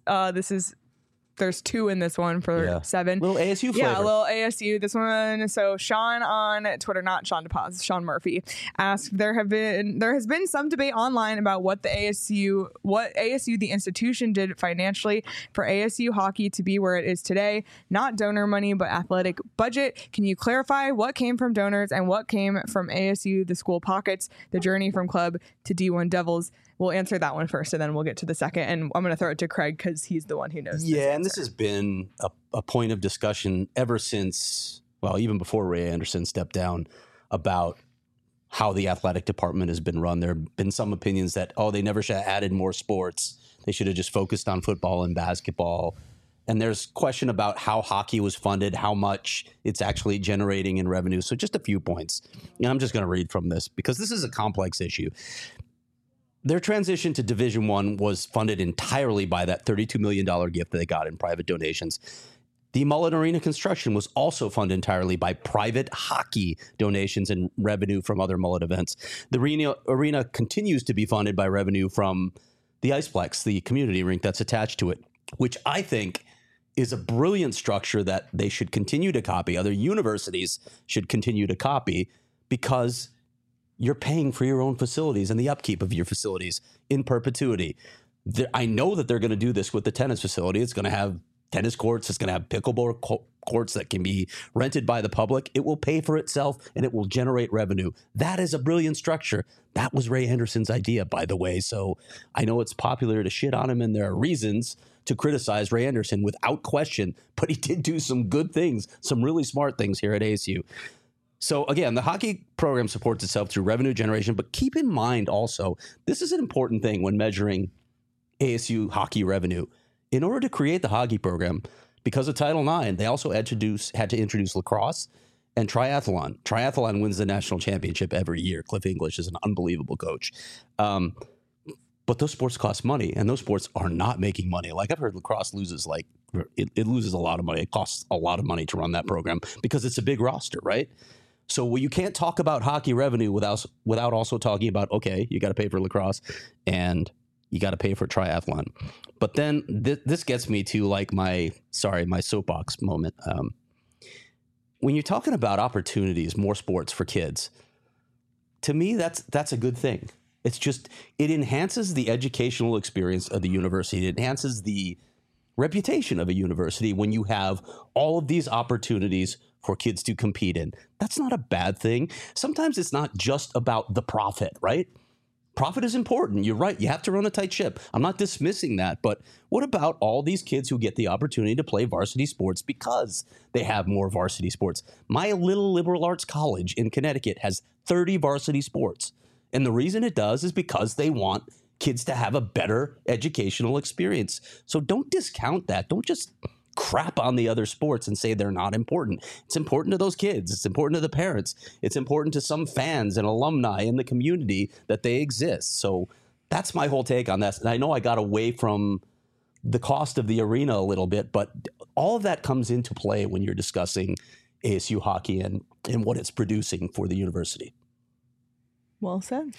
There's 2 in this one for 7. Little ASU flavor. Yeah, a little ASU. This one. So Sean on Twitter, not Sean DePaz, Sean Murphy, asked, there has been some debate online about what ASU the institution did financially for ASU hockey to be where it is today. Not donor money, but athletic budget. Can you clarify what came from donors and what came from ASU, the school pockets, the journey from club to D1 Devils? We'll answer that one first, and then we'll get to the second. And I'm going to throw it to Craig because he's the one who knows. Yeah, and this has been a point of discussion ever since, well, even before Ray Anderson stepped down, about how the athletic department has been run. There have been some opinions that, they never should have added more sports. They should have just focused on football and basketball. And there's question about how hockey was funded, how much it's actually generating in revenue. So just a few points. And I'm just going to read from this because this is a complex issue. Their transition to Division I was funded entirely by that $32 million gift that they got in private donations. The Mullet Arena construction was also funded entirely by private hockey donations and revenue from other Mullet events. The arena continues to be funded by revenue from the Iceplex, the community rink that's attached to it, which I think is a brilliant structure that they should continue to copy. Other universities should continue to copy because you're paying for your own facilities and the upkeep of your facilities in perpetuity. I know that they're going to do this with the tennis facility. It's going to have tennis courts. It's going to have pickleball courts that can be rented by the public. It will pay for itself and it will generate revenue. That is a brilliant structure. That was Ray Anderson's idea, by the way. So I know it's popular to shit on him, and there are reasons to criticize Ray Anderson without question, but he did do some good things, some really smart things here at ASU. So again, the hockey program supports itself through revenue generation, but keep in mind also, this is an important thing when measuring ASU hockey revenue. In order to create the hockey program, because of Title IX, they also had to introduce lacrosse and triathlon. Triathlon wins the national championship every year. Cliff English is an unbelievable coach. But those sports cost money, and those sports are not making money. Like I've heard lacrosse loses it loses a lot of money. It costs a lot of money to run that program because it's a big roster, right? So you can't talk about hockey revenue without also talking about, okay, you got to pay for lacrosse and you got to pay for triathlon. But then this gets me to like my soapbox moment. when you're talking about opportunities, more sports for kids, to me, that's a good thing. It's just, it enhances the educational experience of the university. It enhances the reputation of a university when you have all of these opportunities for kids to compete in. That's not a bad thing. Sometimes it's not just about the profit, right? Profit is important. You're right. You have to run a tight ship. I'm not dismissing that. But what about all these kids who get the opportunity to play varsity sports because they have more varsity sports? My little liberal arts college in Connecticut has 30 varsity sports. And the reason it does is because they want kids to have a better educational experience. So don't discount that. Don't just crap on the other sports and say they're not important. It's important to those kids. It's important to the parents. It's important to some fans and alumni in the community that they exist. So that's my whole take on this. And I know I got away from the cost of the arena a little bit, but all of that comes into play when you're discussing ASU hockey and what it's producing for the university. Well said.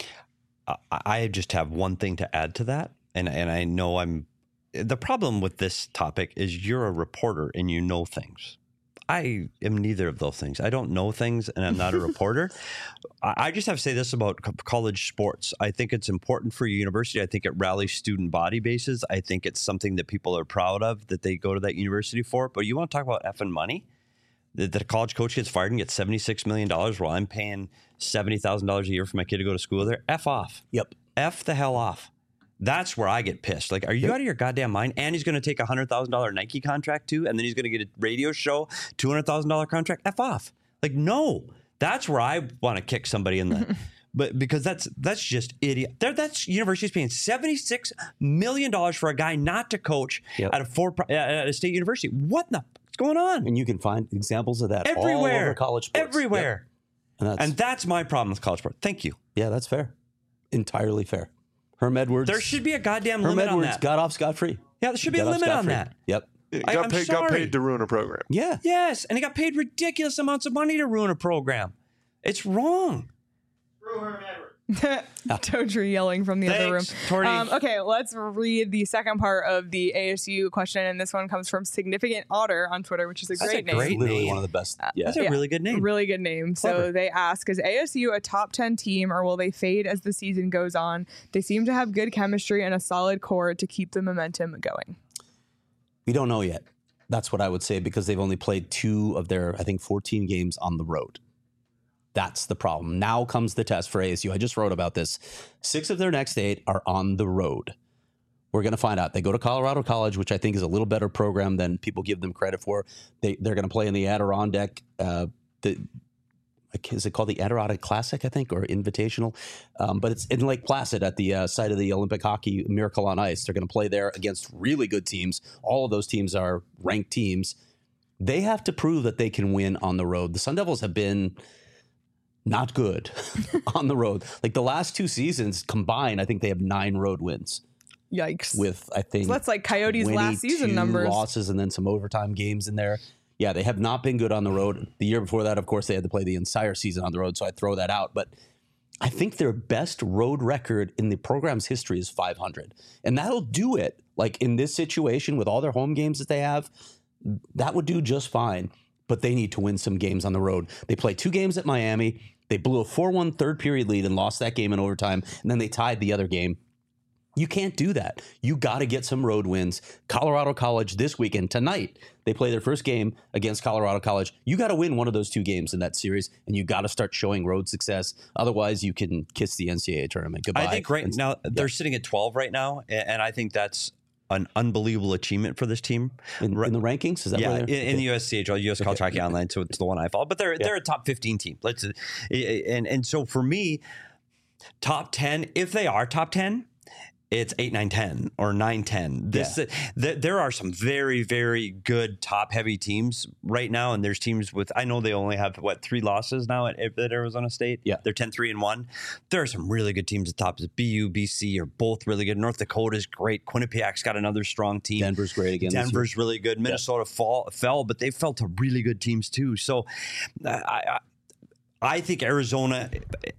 I just have one thing to add to that. And I know the problem with this topic is you're a reporter and you know things. I am neither of those things. I don't know things and I'm not a reporter. I just have to say this about college sports. I think it's important for a university. I think it rallies student body bases. I think it's something that people are proud of that they go to that university for. But you want to talk about effing money? That a college coach gets fired and gets $76 million while I'm paying $70,000 a year for my kid to go to school there. F off. Yep. F the hell off. That's where I get pissed. Like, are you out of your goddamn mind? And he's going to take a $100,000 Nike contract too, and then he's going to get a radio show, $200,000 contract. F off. Like, no. That's where I want to kick somebody in the. But because that's just idiot. That's university's paying $76 million for a guy not to coach at a state university. What the what's going on? And you can find examples of that everywhere, all over college sports. Everywhere. Yep. And that's my problem with college sports. Thank you. Yeah, that's fair. Entirely fair. Herm Edwards. There should be a goddamn limit on that. Herm Edwards got off scot-free. Yeah, there should be a limit on that. Yep. Got paid to ruin a program. Yeah. Yes, and he got paid ridiculous amounts of money to ruin a program. It's wrong. Herm Edwards. Todry yelling from the other room. Okay, let's read the second part of the ASU question, and this one comes from Significant Otter on Twitter, which is a great name. That's literally one of the best. That's a really good name. Really good name. Clever. So they ask, is ASU a top 10 team, or will they fade as the season goes on? They seem to have good chemistry and a solid core to keep the momentum going. We don't know yet. That's what I would say, because they've only played 2 of their, 14 games on the road. That's the problem. Now comes the test for ASU. I just wrote about this. 6 of their next 8 are on the road. We're going to find out. They go to Colorado College, which I think is a little better program than people give them credit for. They're going to play in the Adirondack. Is it called the Adirondack Classic, I think, or Invitational? But it's in Lake Placid at the site of the Olympic Hockey Miracle on Ice. They're going to play there against really good teams. All of those teams are ranked teams. They have to prove that they can win on the road. The Sun Devils have been not good on the road. Like the last 2 seasons combined, I think they have 9 road wins. Yikes. With, I think, so that's like Coyotes' last season numbers. Losses and then some overtime games in there. Yeah, they have not been good on the road. The year before that, of course, they had to play the entire season on the road, so I throw that out. But I think their best road record in the program's history is 500. And that'll do it. Like in this situation with all their home games that they have, that would do just fine. But they need to win some games on the road. They played 2 games at Miami. They blew a 4-1 third period lead and lost that game in overtime. And then they tied the other game. You can't do that. You got to get some road wins. Colorado College this weekend, tonight, they play their first game against Colorado College. You got to win one of those 2 games in that series, and you got to start showing road success. Otherwise, you can kiss the NCAA tournament goodbye. I think right now they're sitting at 12 right now, and I think that's an unbelievable achievement for this team in the rankings. Is that in the USCHL, US College Hockey Online? So it's the one I follow, but they're a top 15 team. And so for me, top 10. If they are top 10, it's 8, 9, 10 or 9, 10. There are some very, very good top heavy teams right now. And there's teams with, I know they only have 3 losses now at Arizona State. Yeah. They're 10-3-1. There are some really good teams at the top. BU, BC are both really good. North Dakota's great. Quinnipiac's got another strong team. Denver's great again. Denver's really good. Minnesota fell, but they fell to really good teams too. So I think Arizona,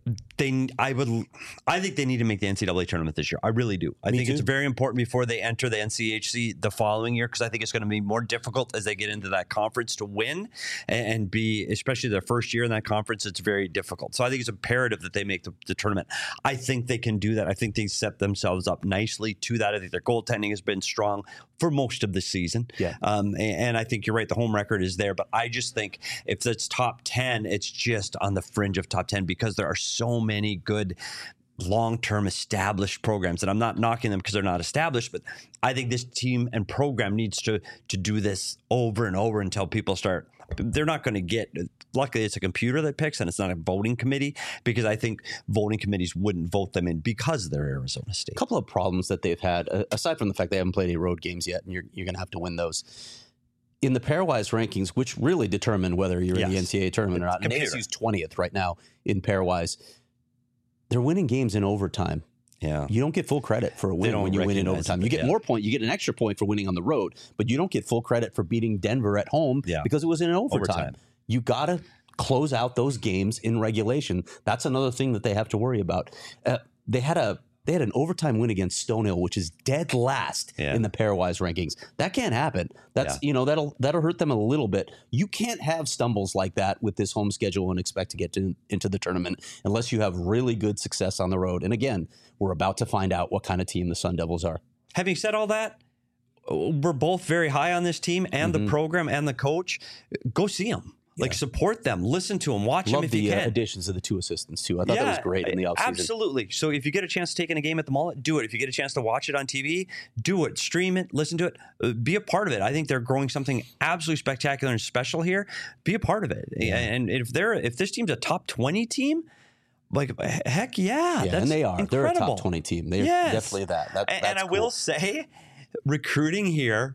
I think they need to make the NCAA tournament this year. I really do. I think it's very important before they enter the NCHC the following year, because I think it's going to be more difficult as they get into that conference to win and be, especially their first year in that conference, it's very difficult. So I think it's imperative that they make the tournament. I think they can do that. I think they set themselves up nicely to that. I think their goaltending has been strong for most of the season. Yeah. And I think you're right. The home record is there. But I just think if it's top 10, it's just on the fringe of top 10 because there are so many good long-term established programs. And I'm not knocking them because they're not established, but I think this team and program needs to do this over and over until people start. They're not going to get, luckily it's a computer that picks and it's not a voting committee, because I think voting committees wouldn't vote them in because they're Arizona State. A couple of problems that they've had, aside from the fact they haven't played any road games yet, and you're going to have to win those. In the pairwise rankings, which really determine whether you're in the NCAA tournament or not, and ASU's 20th right now in pairwise, they're winning games in overtime. Yeah. You don't get full credit for a win when you win in overtime. You get more point. You get an extra point for winning on the road, but you don't get full credit for beating Denver at home because it was in overtime. You got to close out those games in regulation. That's another thing that they have to worry about. They had an overtime win against Stonehill, which is dead last in the pairwise rankings. That can't happen. That's that'll hurt them a little bit. You can't have stumbles like that with this home schedule and expect to get into the tournament unless you have really good success on the road. And again, we're about to find out what kind of team the Sun Devils are. Having said all that, we're both very high on this team and the program and the coach. Go see them. Like, support them, listen to them, watch them if you can. Love the additions of the two assistants, too. I thought that was great in the offseason. Absolutely. So if you get a chance to take in a game at the Mullet, do it. If you get a chance to watch it on TV, do it. Stream it, listen to it, be a part of it. I think they're growing something absolutely spectacular and special here. Be a part of it. Yeah. And if this team's a top 20 team, like, heck yeah. Yeah, and they are. Incredible. They're a top 20 team. They're definitely that. And I will say, recruiting here,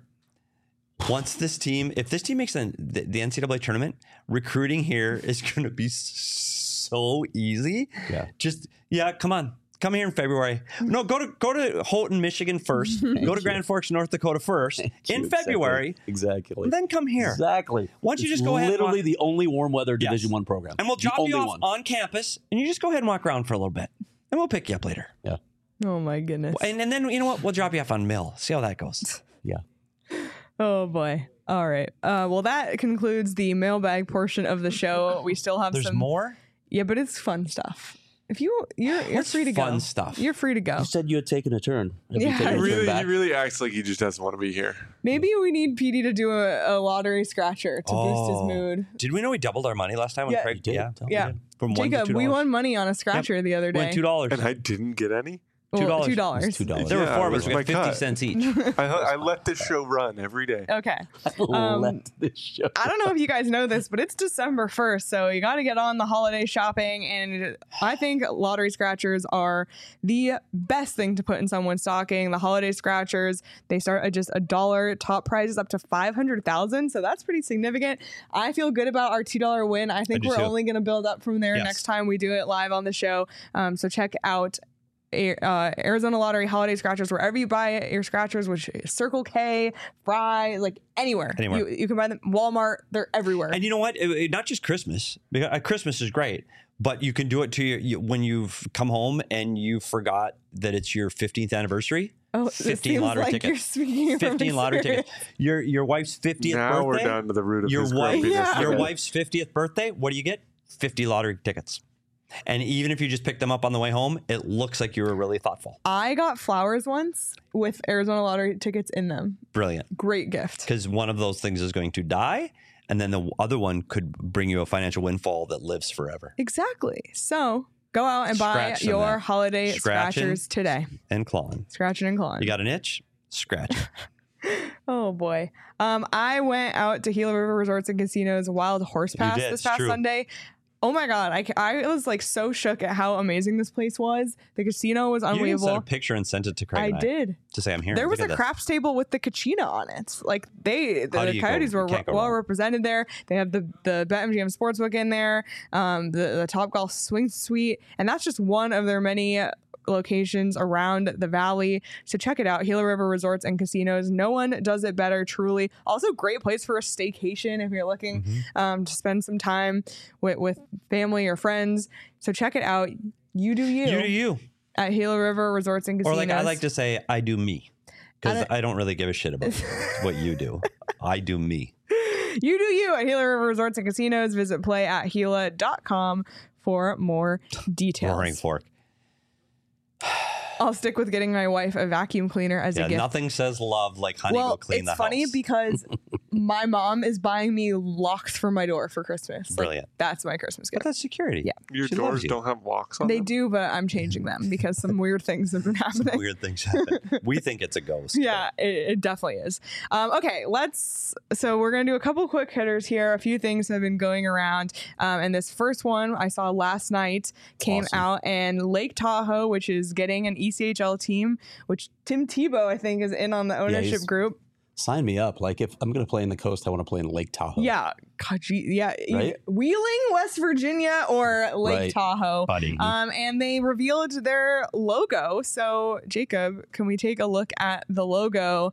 if this team makes the NCAA tournament, recruiting here is going to be so easy. Yeah. Come on. Come here in February. No, go to Houghton, Michigan first. Go to Grand Forks, North Dakota first in February. Exactly. And then come here. Exactly. Why don't you just go ahead? Literally the only warm weather Division I program. And we'll drop you off on campus, and you just go ahead and walk around for a little bit, and we'll pick you up later. Yeah. Oh my goodness. And then you know what? We'll drop you off on Mill. See how that goes. Yeah. Oh boy. All right. Well, that concludes the mailbag portion of the show. We still have There's more? Yeah, but it's fun stuff. If you're free to go. Fun stuff. You're free to go. You said you had taken a turn. He really acts like he just doesn't want to be here. Maybe we need PD to do a lottery scratcher to boost his mood. Did we know we doubled our money last time? When Craig did. Yeah. From Jacob, we won money on a scratcher the other day. $2. And I didn't get any? $2. $2. There were 4 of us. We got 50 cents each. I let this show run every day. Okay. Let this show I don't know if you guys know this, but it's December 1st, so you got to get on the holiday shopping. And I think lottery scratchers are the best thing to put in someone's stocking. The holiday scratchers, they start at just $1. Top prizes up to $500,000, so that's pretty significant. I feel good about our $2 win. I think we're only going to build up from there next time we do it live on the show. So check out Arizona Lottery holiday scratchers wherever you buy your scratchers, which is Circle K, Fry, like anywhere. You can buy them. Walmart, they're everywhere. And you know what? Not just Christmas. Because Christmas is great, but you can do it to when you've come home and you forgot that it's your 15th anniversary. Oh, 15 lottery tickets. 15 lottery tickets. Your wife's 50th birthday. Now we're down to the root of his grumpiness. Your wife's 50th birthday. What do you get? 50 lottery tickets. And even if you just pick them up on the way home, it looks like you were really thoughtful. I got flowers once with Arizona Lottery tickets in them. Brilliant. Great gift. Because one of those things is going to die, and then the other one could bring you a financial windfall that lives forever. Exactly. So go out and buy your holiday scratchers today. And clawing. Scratching and clawing. You got an itch? Scratch it. Oh boy. I went out to Gila River Resorts and Casinos Wild Horse Pass this past Sunday. Oh my God. I was like so shook at how amazing this place was. The casino was unbelievable. You sent a picture and sent it to Craig. I did. To say I'm here. There was a craps table with the Kachina on it. Like the Coyotes were well represented there. They have the BetMGM Sportsbook in there, the Top Golf Swing Suite. And that's just one of their many locations around the valley. So check it out. Gila River Resorts and Casinos. No one does it better, truly. Also, great place for a staycation if you're looking to spend some time with family or friends. So check it out. You do you. You do you. At Gila River Resorts and Casinos. Or like I like to say, I do me. Because I don't really give a shit about what you do. I do me. You do you at Gila River Resorts and Casinos. Visit playatgila.com for more details. Boring fork. I'll stick with getting my wife a vacuum cleaner as a gift. Nothing says love like honey go clean the house. It's funny because my mom is buying me locks for my door for Christmas. Brilliant. That's my Christmas gift. But that's security. Yeah. Your doors don't have locks on them? They do, but I'm changing them because some weird things have been happening. Some weird things happen. We think it's a ghost. Yeah, it definitely is. Okay, so we're going to do a couple quick hitters here. A few things have been going around. And this first one I saw last night came out, and Lake Tahoe, which is getting an ECHL team, which Tim Tebow, I think, is in on the ownership group. Sign me up. Like, if I'm going to play in the coast, I want to play in Lake Tahoe. Yeah. God, right? Wheeling, West Virginia, or Lake Tahoe. Buddy. And they revealed their logo. So, Jacob, can we take a look at the logo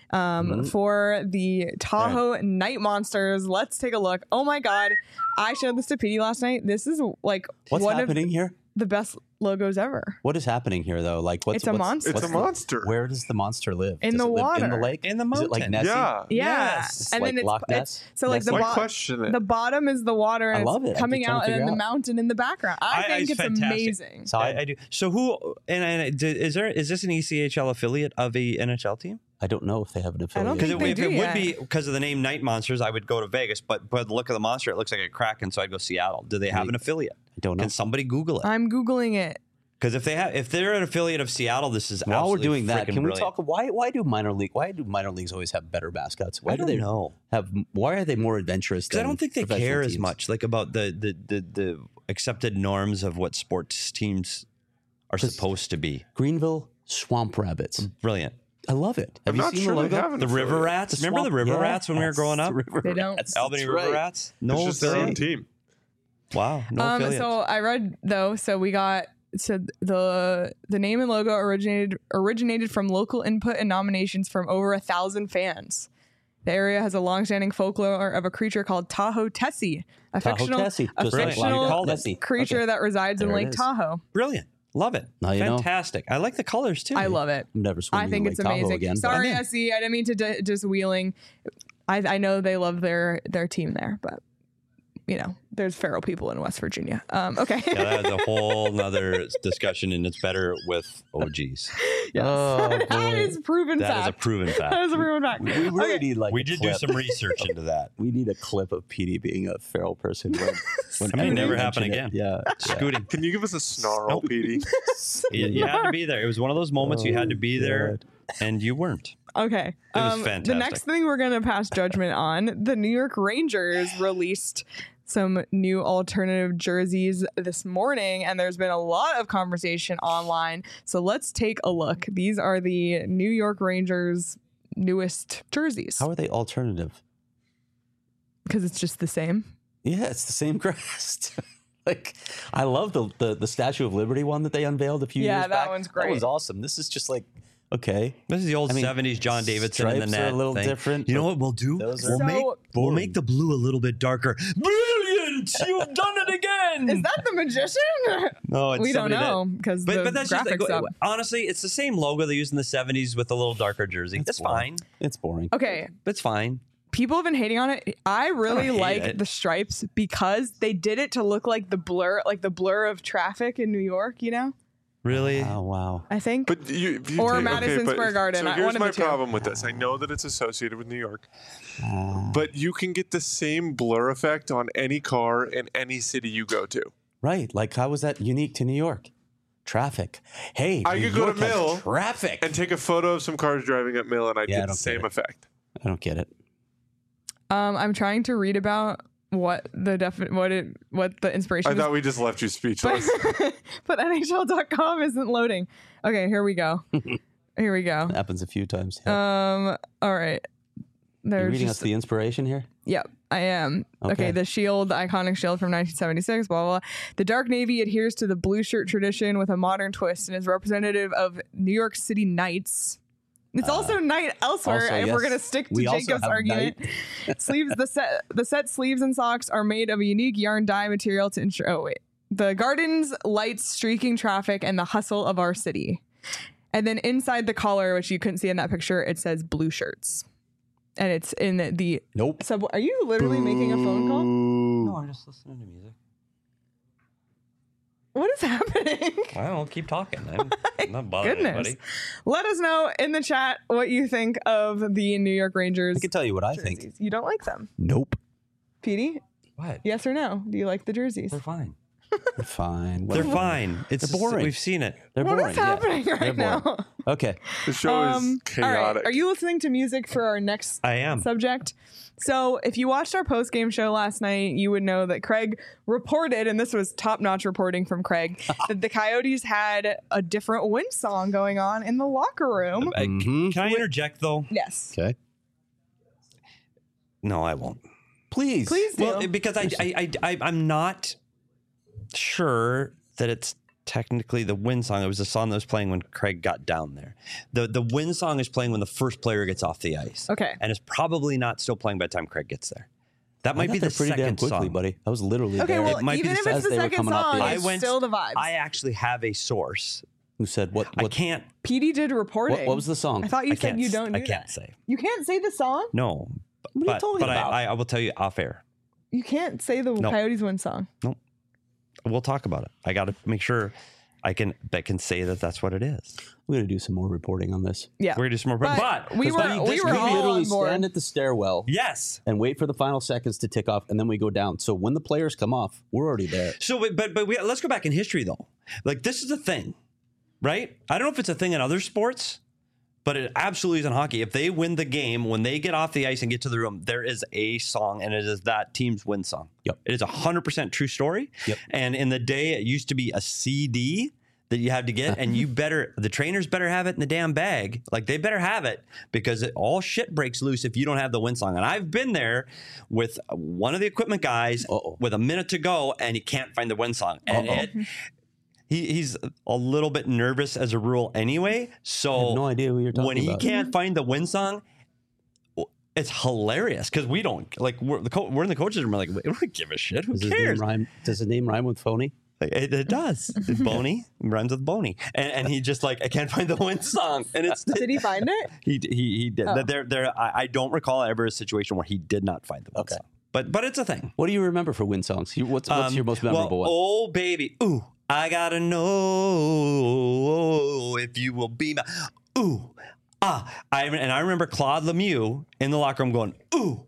for the Tahoe Night Monsters? Let's take a look. Oh my God. I showed this to Petey last night. This is like what's happening here? The best logos ever. What is happening here, though? Like, it's a monster. It's a monster. Where does the monster live? In the water. In the lake? In the mountain. Is it like Nessie? Yeah. Yes. And like then Loch Ness? So like the bottom is the water, and it's coming out, and then the mountain in the background. I think it's amazing. So I do. So who is this an ECHL affiliate of a NHL team? I don't know if they have an affiliate. Because if it would be because of the name Night Monsters, I would go to Vegas. But the look of the monster, it looks like a Kraken, so I'd go Seattle. Do they have an affiliate? I don't know. Can somebody Google it? I'm Googling it. Because if they're an affiliate of Seattle, this is while we're doing that. Can we brilliant. talk? Why do minor leagues always have better mascots? Why I don't know. Why are they more adventurous? Because I don't think they care teams? as much like about the accepted norms of what sports teams are supposed to be. Greenville Swamp Rabbits, brilliant. I love it. Have you seen the logo? The River Rats. Remember the River Rats when we were growing up? They don't. Albany River Rats. No, it's just their own team. Wow. No affiliate. So I read though. So we got. So the name and logo originated from local input and nominations from over 1,000 fans. The area has a long-standing folklore of a creature called Tahoe Tessie, a fictional creature that resides in Lake Tahoe. Brilliant. Love it. Fantastic. I like the colors too. I love it. I'm never swimming I think in it's Lake Tahoe amazing. again. Sorry, Essie. I didn't mean to just Wheeling. I know they love their team there, but there's feral people in West Virginia. Okay. Yeah, that's a whole nother discussion, and it's better with OGs. Yes. That is proven fact. That is a proven fact. That is a proven fact. We really need we did do some research into that. We need a clip of Petey being a feral person. When it never happen again. Yeah. Scooting. Can you give us a snarl, Petey? You had to be there. It was one of those moments you had to be there, and you weren't. Okay. It was fantastic. The next thing we're going to pass judgment on, the New York Rangers released some new alternative jerseys this morning, and there's been a lot of conversation online. So let's take a look. These are the New York Rangers' newest jerseys. How are they alternative? Because it's just the same. Yeah, it's the same crest. Like, I love the Statue of Liberty one that they unveiled a few years back. Yeah, that one's great. That was awesome. This is just like, okay. This is the old 70s John Davidson in the net. Are a little thing. different. You know what we'll do? We'll make the blue a little bit darker. Brilliant! You've done it again! Is that the magician? No, it's we don't know because but that's just graphics up. Honestly, it's the same logo they used in the 70s with a little darker jersey. It's fine. It's boring. Okay. It's fine. People have been hating on it. I really like the stripes because they did it to look like the blur of traffic in New York, Really? Oh, wow. I think. But Madison Square Garden. So here's my problem with this. I know that it's associated with New York, but you can get the same blur effect on any car in any city you go to. Right. Like, how was that unique to New York? Traffic. Hey, I could go to Mill traffic and take a photo of some cars driving up Mill, and I'd get the same effect. I don't get it. I'm trying to read about what the inspiration. I thought we just left you speechless. But NHL.com isn't loading. Okay, here we go. Here we go. It happens a few times. Yeah. All right. You're reading us the inspiration here? Yep, I am. Okay, the shield, the iconic shield from 1976, blah, blah, blah. The dark navy adheres to the blue shirt tradition with a modern twist and is representative of New York City Knights. It's also night elsewhere, and we're going to stick to Jacob's argument. Sleeves, the set sleeves and socks are made of a unique yarn dye material to ensure, the gardens, lights, streaking traffic, and the hustle of our city. And then inside the collar, which you couldn't see in that picture, it says blue shirts. And it's in the subway. Are you literally making a phone call? No, I'm just listening to music. What is happening? I don't keep talking. I'm not bothering anybody. Let us know in the chat what you think of the New York Rangers. I can tell you what I jerseys. think. You don't like them? Nope. Petey? What? Yes or no? Do you like the jerseys? They're fine. They're fine. They're fine. It's boring. We've seen it. They're boring. What is happening right now? Okay. The show is chaotic. All right. Are you listening to music for our next subject? So if you watched our post-game show last night, you would know that Craig reported, and this was top-notch reporting from Craig, that the Coyotes had a different win song going on in the locker room. Can I interject, though? Yes. Okay. No, I won't. Please do. Well, because I'm not sure that it's technically the win song. It was the song that was playing when Craig got down there. The win song is playing when the first player gets off the ice. Okay. And it's probably not still playing by the time Craig gets there. That might be the pretty second damn quickly, song. buddy. I was literally there. Okay, well, it might even be if it's the second song, it's still the vibes. I actually have a source. Who said what? I can't. PD did reporting. What was the song? I thought you said you don't do that. I can't say. You can't say the song? No. What are you talking about? I will tell you off air. You can't say the Coyotes win song. No. We'll talk about it. I got to make sure I can say that that's what it is. We're going to do some more reporting on this. Yeah. We're going to do some more reporting. But we were all literally on board. stand at the stairwell. Yes. And wait for the final seconds to tick off, and then we go down. So when the players come off, we're already there. So, let's go back in history, though. Like, this is a thing, right? I don't know if it's a thing in other sports, but it absolutely is in hockey. If they win the game, when they get off the ice and get to the room, there is a song, and it is that team's win song. Yep. It is 100% true story. Yep. And in the day, it used to be a CD that you had to get, and the trainers better have it in the damn bag. Like, they better have it, because all shit breaks loose if you don't have the win song. And I've been there with one of the equipment guys with a minute to go, and he can't find the win song. And he's a little bit nervous as a rule anyway. So I have no idea what you're talking about. When he can't find the win song, it's hilarious, because we don't we're in the coaches room. We're like, we don't give a shit. Who cares? Does his name rhyme with phony? It does. Boney rhymes with Boney, and he just I can't find the win song. And it's did he find it? He did. Oh. I don't recall ever a situation where he did not find the win song. But it's a thing. What do you remember for win songs? What's your most memorable one? Oh baby, ooh, I gotta know if you will be my ooh. I remember Claude Lemieux in the locker room going, ooh,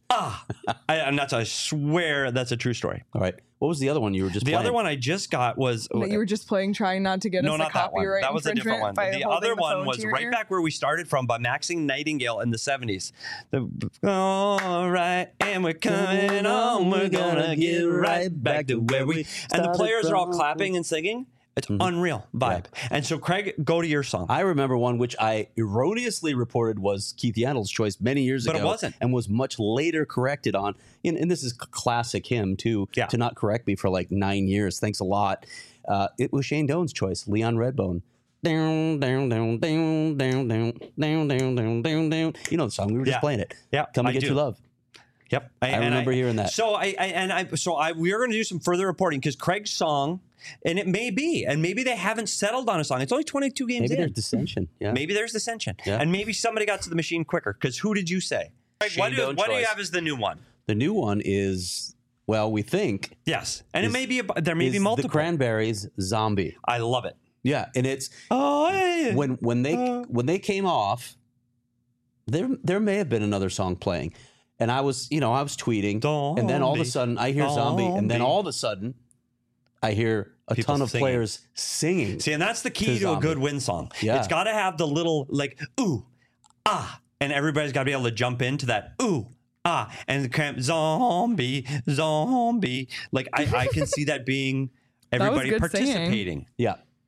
I swear that's a true story. All right. What was the other one you were just playing? The other one I just got was... That you were just playing, trying not to get us a copyright that was a different one. The other one was right back where we started from, by Maxine Nightingale in the 70s. All right, and we're coming on. We're going to get right back to where we... And the players are all clapping and singing. It's unreal vibe. Yeah. And so, Craig, go to your song. I remember one which I erroneously reported was Keith Yandle's choice many years ago. But it wasn't. And was much later corrected on. And this is classic him, too, to not correct me for 9 years. Thanks a lot. It was Shane Doan's choice, Leon Redbone. Down, down, down, down, down, down, down, down, down, down, down. You know the song. We were just playing it. Yeah, Come and Get Your Love. Yep. I remember hearing that. So we are going to do some further reporting, because Craig's song, and it may be, and maybe they haven't settled on a song. It's only 22 games in. Maybe there's dissension. Yeah. Maybe there's dissension. Yeah. And maybe somebody got to the machine quicker, because who did you say? Craig, what do you have as the new one? The new one is, well, we think. Yes. And it may be, there may be multiple. The Cranberries, Zombie. I love it. Yeah. And it's, when they came off, there may have been another song playing. And I was tweeting, and then all of a sudden I hear Zombie, and then all of a sudden I hear a ton of players singing. See, and that's the key to a good win song. Yeah. It's got to have the little ooh, ah, and everybody's got to be able to jump into that ooh, ah, and the cramp zombie. I can see that being everybody participating. Singing. Yeah.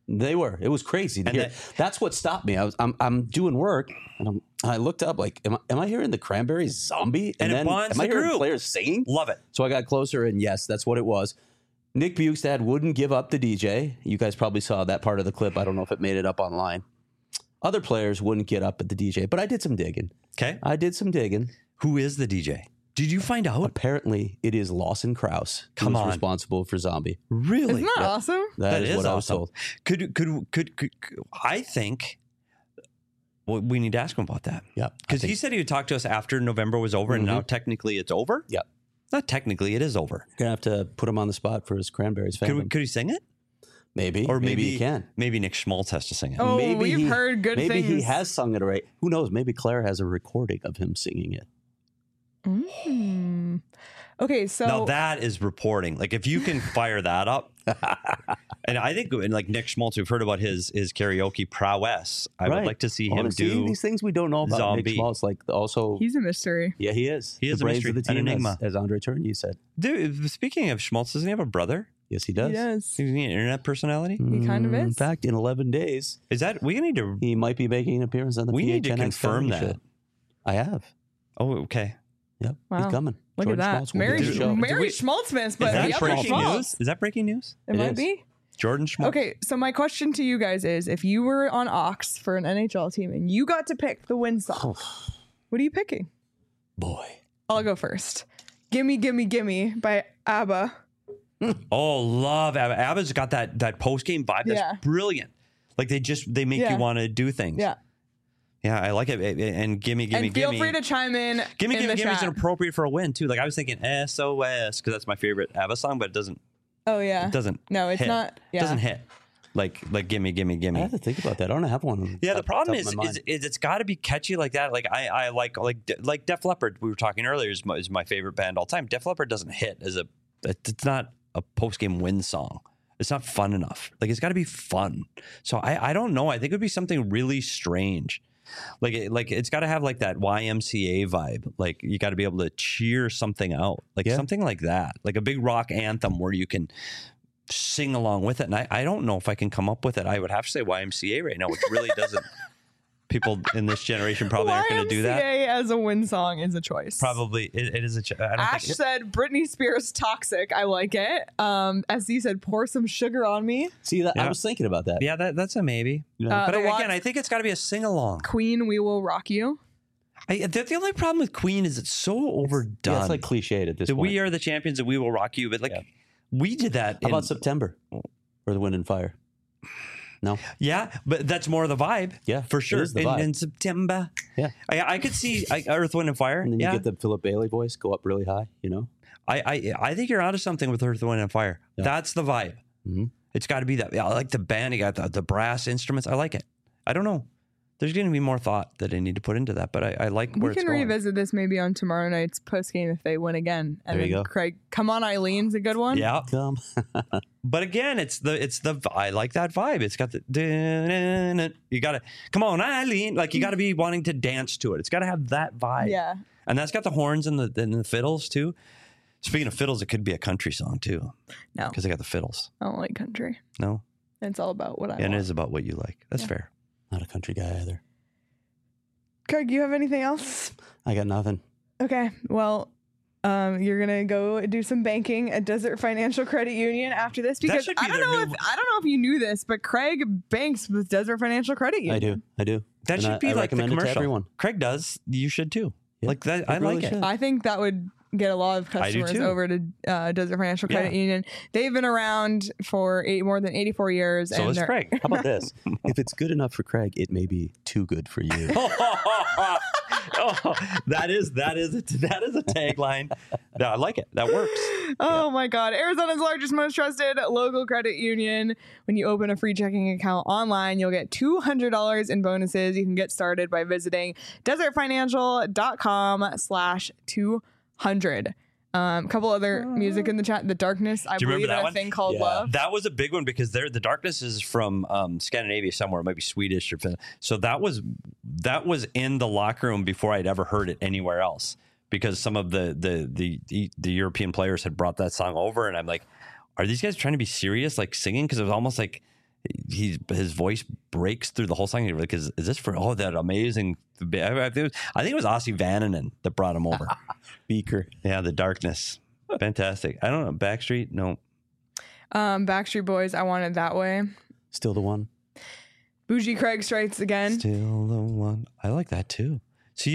They were. It was crazy to hear. That's what stopped me. I'm doing work, and I looked up like, am I hearing the Cranberries Zombie? And then am I hearing players singing? Love it. So I got closer, and yes, that's what it was. Nick Bjugstad wouldn't give up the DJ. You guys probably saw that part of the clip. I don't know if it made it up online. Other players wouldn't get up at the DJ, but I did some digging. Okay. I did some digging. Who is the DJ? Did you find out? Apparently, it is Lawson Krause who's responsible for Zombie. Isn't Really? that awesome? That is what awesome. I was told. Could I think we need to ask him about that? Yeah. Because he said he would talk to us after November was over, and now technically it's over? Yeah. Not technically, it is over. You're going to have to put him on the spot for his Cranberries fandom. Could he sing it? Maybe. Or maybe he can. Maybe Nick Schmaltz has to sing it. Oh, we've heard good things. Maybe he has sung it already. Who knows? Maybe Claire has a recording of him singing it. Okay, so now that is reporting. Like if you can fire that up, and I think like Nick Schmaltz, we've heard about his karaoke prowess. I would like to see him do these things we don't know about Zombie. Nick Schmaltz. Like also, he's a mystery. Yeah, he is. He is a mystery. Of the team, an enigma, as Andre Tourigny said. Dude, speaking of Schmaltz, doesn't he have a brother? Yes, he does. He does. Is he an internet personality? He kind of is. In fact, in 11 days, is that we need to? He might be making an appearance on the. We need to confirm that. Show. I have. Oh, okay. Yep, wow. he's coming. Look Jordan at that. Mary Schmaltzman, but is that breaking news? Is that breaking news? It might be. Jordan Schmaltz. Okay, so my question to you guys is, if you were on Ox for an NHL team and you got to pick the win song, what are you picking? Boy. I'll go first. Gimme, Gimme, Gimme by ABBA. Oh, love ABBA. ABBA's got that post-game vibe that's brilliant. Like they make you want to do things. Yeah. Yeah, I like it. And Gimme, Gimme, and feel free to chime in. Gimme, Gimme, Gimme is appropriate for a win too. Like I was thinking SOS because that's my favorite ABBA song, but it doesn't. Oh yeah. It doesn't. No, it's hit. not. Yeah. It doesn't hit. Like Gimme, Gimme, Gimme. I have to think about that. I don't have one. Yeah, the problem is it's got to be catchy like that. Like I like Def Leppard. We were talking earlier is my favorite band all time. Def Leppard doesn't hit it's not a post game win song. It's not fun enough. Like it's got to be fun. So I don't know. I think it would be something really strange. Like it's got to have like that YMCA vibe. Like you got to be able to cheer something out. Like something like that. Like a big rock anthem where you can sing along with it. And I don't know if I can come up with it. I would have to say YMCA right now, which really doesn't. People in this generation probably aren't going to do that. YMCA as a win song is a choice. Probably it is a choice. Ash said Britney Spears Toxic. I like it. SC said Pour Some Sugar on Me. See, I was thinking about that. Yeah, that's a maybe. But again, I think it's got to be a sing along. Queen, We Will Rock You. The only problem with Queen is it's so overdone. It's like cliched at this point. We are the champions and we will rock you. But we did that. How about September or the Wind and Fire? No. Yeah, but that's more of the vibe. Yeah, for sure. It is the vibe. In September. Yeah. I could see Earth, Wind, and Fire. And then you get the Philip Bailey voice go up really high, you know? I think you're onto something with Earth, Wind, and Fire. Yeah. That's the vibe. Mm-hmm. It's got to be that. Yeah, I like the band. You got the brass instruments. I like it. I don't know. There's going to be more thought that I need to put into that, but I like where it's going. We can revisit this maybe on tomorrow night's post game if they win again. And there you go. Craig, Come On Eileen's a good one. Yeah. Come. But again, it's the I like that vibe. It's got the you got to come on Eileen, like you got to be wanting to dance to it. It's got to have that vibe. Yeah. And that's got the horns and the fiddles too. Speaking of fiddles, it could be a country song too. No. Because they got the fiddles. I don't like country. No. It's all about what I want. And it is about what you like. That's fair. Not a country guy either. Craig, you have anything else? I got nothing. Okay. Well, you're gonna go do some banking at Desert Financial Credit Union after this because I don't know if you knew this, but Craig banks with Desert Financial Credit Union. I do. That and should be I like the commercial. to everyone. Craig does. You should too. Yeah, like that. I really like it. should. I think that would get a lot of customers over to Desert Financial Credit Union. They've been around for more than 84 years. So is Craig. How about this? If it's good enough for Craig, it may be too good for you. That is a tagline. I like it. That works. Oh my God. Arizona's largest, most trusted local credit union. When you open a free checking account online, you'll get $200 in bonuses. You can get started by visiting desertfinancial.com/200. A couple other music in the chat. The Darkness, I believe, in a thing called Love. That was a big one because the Darkness is from Scandinavia somewhere. It might be Swedish or so. That was in the locker room before I'd ever heard it anywhere else because some of the European players had brought that song over, and I'm like, are these guys trying to be serious, like singing? Because it was almost like his voice breaks through the whole song. You're like, is this for that amazing? I think it was Ossie Vananen that brought him over. Beaker, yeah, the darkness, fantastic. I don't know, Backstreet, no. Backstreet Boys, I Want It That Way. Still the one. Bougie Craig Strikes Again. Still the one. I like that too. So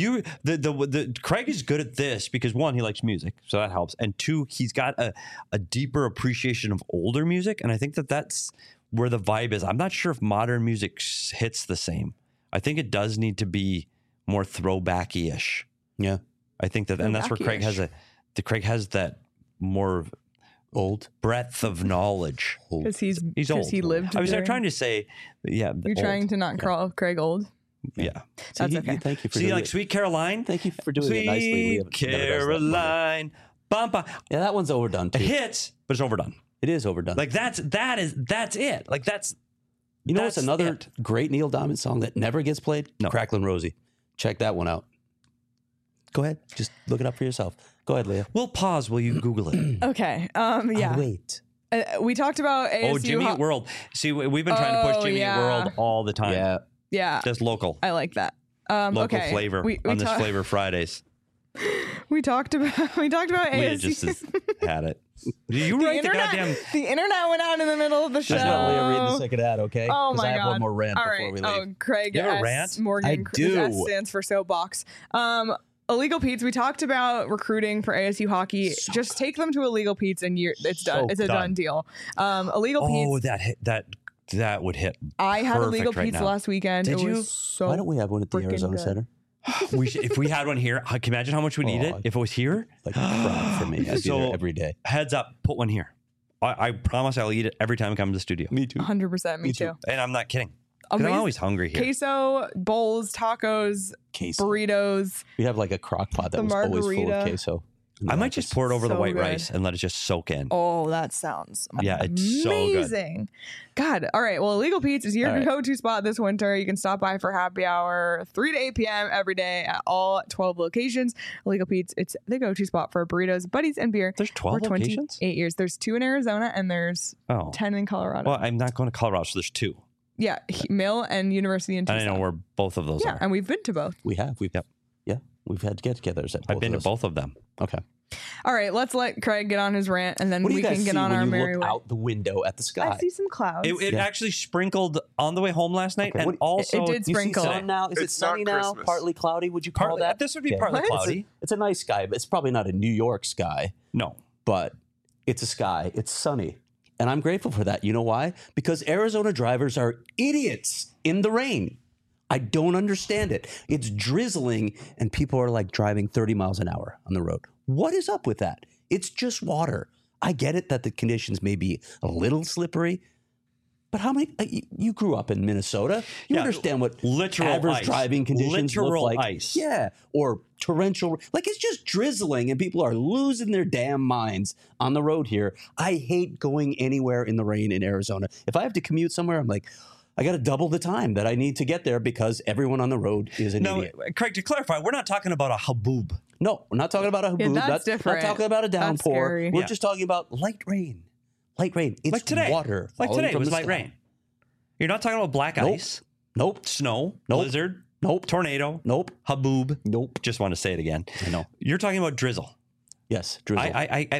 the Craig is good at this because one, he likes music, so that helps, and two, he's got a deeper appreciation of older music, and I think that's where the vibe is. I'm not sure if modern music hits the same. I think it does need to be more throwbacky-ish. Yeah, I think that, and that's where Craig has that more old breadth of knowledge because he's old. He lived. I was trying to say, yeah. You're trying to not call Craig old. Yeah, that's okay. Thank you for doing like Sweet Caroline. Thank you for doing it nicely. Sweet Caroline, bumpa. Yeah, that one's overdone too. It hits, but it's overdone. It is overdone. Like that's it. Like that's. You know what's another great Neil Diamond song that never gets played? No. Cracklin' Rosie. Check that one out. Go ahead, just look it up for yourself. Go ahead, Leah. We'll pause while you Google it. Okay. Yeah. I'll wait. We talked about ASU. Jimmy Eat World. See, we've been trying to push Jimmy Eat World all the time. Yeah. Just local. I like that. Local flavor on this Flavor Fridays. We talked about ASU. Leah just had it. You write the goddamn. The internet went out in the middle of the show. Just let Leah read the second ad, okay? Oh my God! I have one more rant all before we leave. Oh, Craig you have S. a rant? Morgan. I do. S stands for soapbox. Illegal Pete's. We talked about recruiting for ASU hockey. Just take them to Illegal Pete's and it's done. It's a done deal. Illegal Pete's. That would hit. I had Illegal Pete's last weekend. Did you? Why don't we have one at the Arizona Center? If we had one here, can you imagine how much we need it if it was here? Like crap for me. I'd be there every day. Heads up, put one here. I promise I'll eat it every time I come to the studio. Me too. 100%. Me too. And I'm not kidding. I'm always hungry here. Queso, bowls, tacos, burritos. We have like a crock pot that was always full of queso. I might just pour it over the white rice and let it just soak in. Oh, that sounds it's amazing. So good. God. All right. Well, Illegal Pete's is your go-to spot this winter. You can stop by for happy hour 3 to 8 p.m. every day at all 12 locations. Illegal Pete's, it's the go-to spot for burritos, buddies, and beer. There's 12 locations? 8 years. There's 2 in Arizona and there's 10 in Colorado. Well, I'm not going to Colorado, so there's 2. Yeah. Mill and University in Tucson. And I know where both of those are. Yeah, and we've been to both. We have. We've had get-togethers at both I've been to both of them. Okay. All right, let's let Craig get on his rant, and then we can get on our merry way. Out the window at the sky. I see some clouds. It actually sprinkled on the way home last night, and also it did sprinkle. Is it sunny now? Partly cloudy? Would you call that? This would be partly cloudy. It's a nice sky, but it's probably not a New York sky. No, but it's a sky. It's sunny, and I'm grateful for that. You know why? Because Arizona drivers are idiots in the rain. I don't understand it. It's drizzling and people are like driving 30 miles an hour on the road. What is up with that? It's just water. I get it that the conditions may be a little slippery, but how many? You grew up in Minnesota. You understand what average driving conditions look like. Ice. Yeah, or torrential. Like it's just drizzling and people are losing their damn minds on the road here. I hate going anywhere in the rain in Arizona. If I have to commute somewhere, I'm like, I got to double the time that I need to get there because everyone on the road is an idiot. Craig, to clarify, we're not talking about a haboob. No, we're not talking about a haboob. That's different. Not talking about a downpour. We're just talking about light rain. Light rain. It's like today. Water. Like today, it was light rain. You're not talking about black ice. Nope. Snow. Nope. Blizzard. Nope. Tornado. Nope. Haboob. Nope. Just want to say it again. I know. You're talking about drizzle. Yes, drizzle.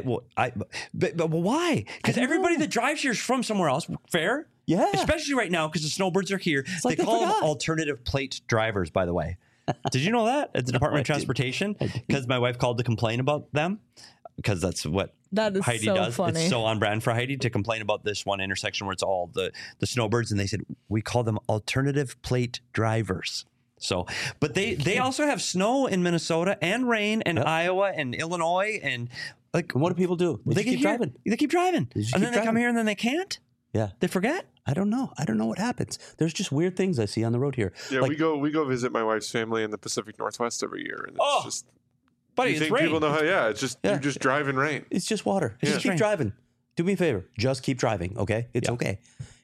But why? Because everybody that drives here is from somewhere else. Fair? Yeah. Especially right now because the snowbirds are here. Like they call them alternative plate drivers, by the way. Did you know that at the Department of Transportation? Because my wife called to complain about them. Because that's what Heidi does. Funny. It's so on brand for Heidi to complain about this one intersection where it's all the snowbirds. And they said, we call them alternative plate drivers. So, but they also have snow in Minnesota and rain in Iowa and Illinois. And like, what do people do? They keep driving. They keep driving. And then they come here and then they can't. Yeah. They forget. I don't know. I don't know what happens. There's just weird things I see on the road here. Yeah, like, we go visit my wife's family in the Pacific Northwest every year. And it's just... Buddy, it's rain. People know how, it's just, you just drive in rain. It's just water. Just keep driving. Do me a favor. Just keep driving, okay? It's okay.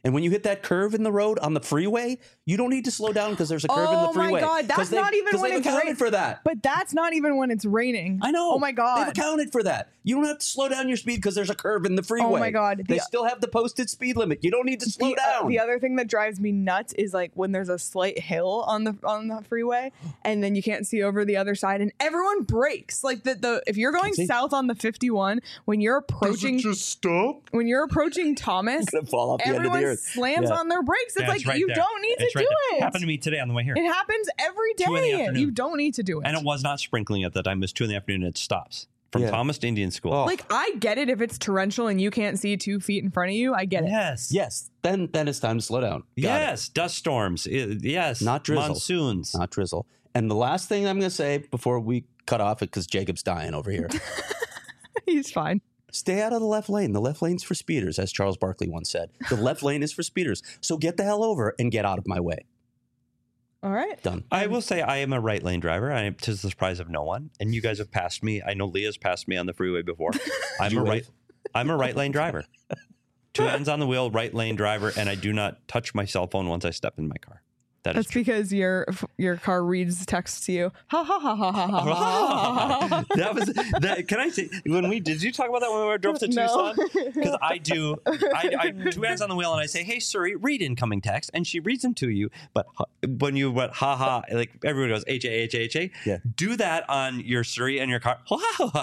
And when you hit that curve in the road on the freeway, you don't need to slow down because there's a curve in the freeway. Oh my God, that's not even when it's raining. For that. But that's not even when it's raining. I know. Oh my God. They've accounted for that. You don't have to slow down your speed because there's a curve in the freeway. Oh my God. They still have the posted speed limit. You don't need to slow down. The other thing that drives me nuts is like when there's a slight hill on the freeway and then you can't see over the other side and everyone brakes. Like if you're going south on the 51, when you're approaching, does it just stop? When you're approaching Thomas, fall off the end of the earth. Slams on their brakes. It's like you don't need to do it. It happened to me today on the way here. It happens every day. You don't need to do it. And it was not sprinkling at that time. It was 2 PM and it stops. From Thomas to Indian School. Oh. Like, I get it if it's torrential and you can't see 2 feet in front of you. I get it. Yes. Then it's time to slow down. Yes. Dust storms. Yes. Not drizzle. Monsoons. Not drizzle. And the last thing I'm going to say before we cut off it, because Jacob's dying over here. He's fine. Stay out of the left lane. The left lane's for speeders, as Charles Barkley once said. The left lane is for speeders. So get the hell over and get out of my way. All right. Done. I will say I am a right lane driver. To the surprise of no one. And you guys have passed me. I know Leah's passed me on the freeway before. I'm a right lane driver. 2 hands on the wheel, right lane driver, and I do not touch my cell phone once I step in my car. That's because your car reads text to you. Ha ha ha ha ha ha. That was that. Can I say did you talk about that when we drove to Tucson? Because I do. I 2 hands on the wheel and I say, "Hey Siri, read incoming text," and she reads them to you. But when you went ha ha, like everyone goes H-A-H-A-H-A. Yeah. Do that on your Siri and your car. So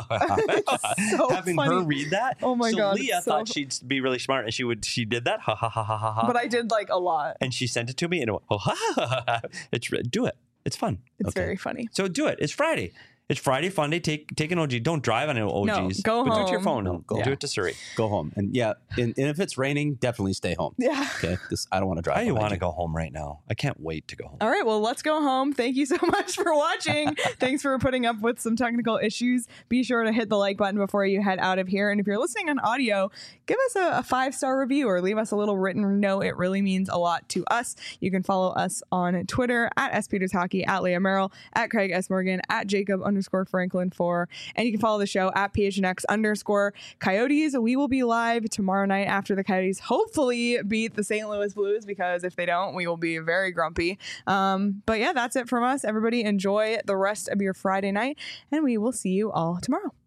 having funny. her read that. Oh my God. Leah thought she'd be really smart and she did that. Ha ha ha ha ha. But I did like a lot. And she sent it to me and it went, do it. It's fun. It's very funny. So do it. It's Friday. It's Friday fun day. Take an OG. Don't drive on an OGs. No, go home. Do it to your phone. Do it to Siri. Go home. And and if it's raining, definitely stay home. Yeah. Okay. I don't want to drive. I want to go home right now. I can't wait to go home. All right. Well, let's go home. Thank you so much for watching. Thanks for putting up with some technical issues. Be sure to hit the like button before you head out of here. And if you're listening on audio, give us a 5-star review or leave us a little written note. It really means a lot to us. You can follow us on Twitter at @SPetersHockey, at Leah Merrill, at Craig S. Morgan, at Jacob_Franklin 4. And you can follow the show at PHNX_Coyotes. We will be live tomorrow night after the Coyotes hopefully beat the St. Louis Blues, because if they don't, we will be very grumpy. But yeah, that's it from us. Everybody enjoy the rest of your Friday night, and we will see you all tomorrow.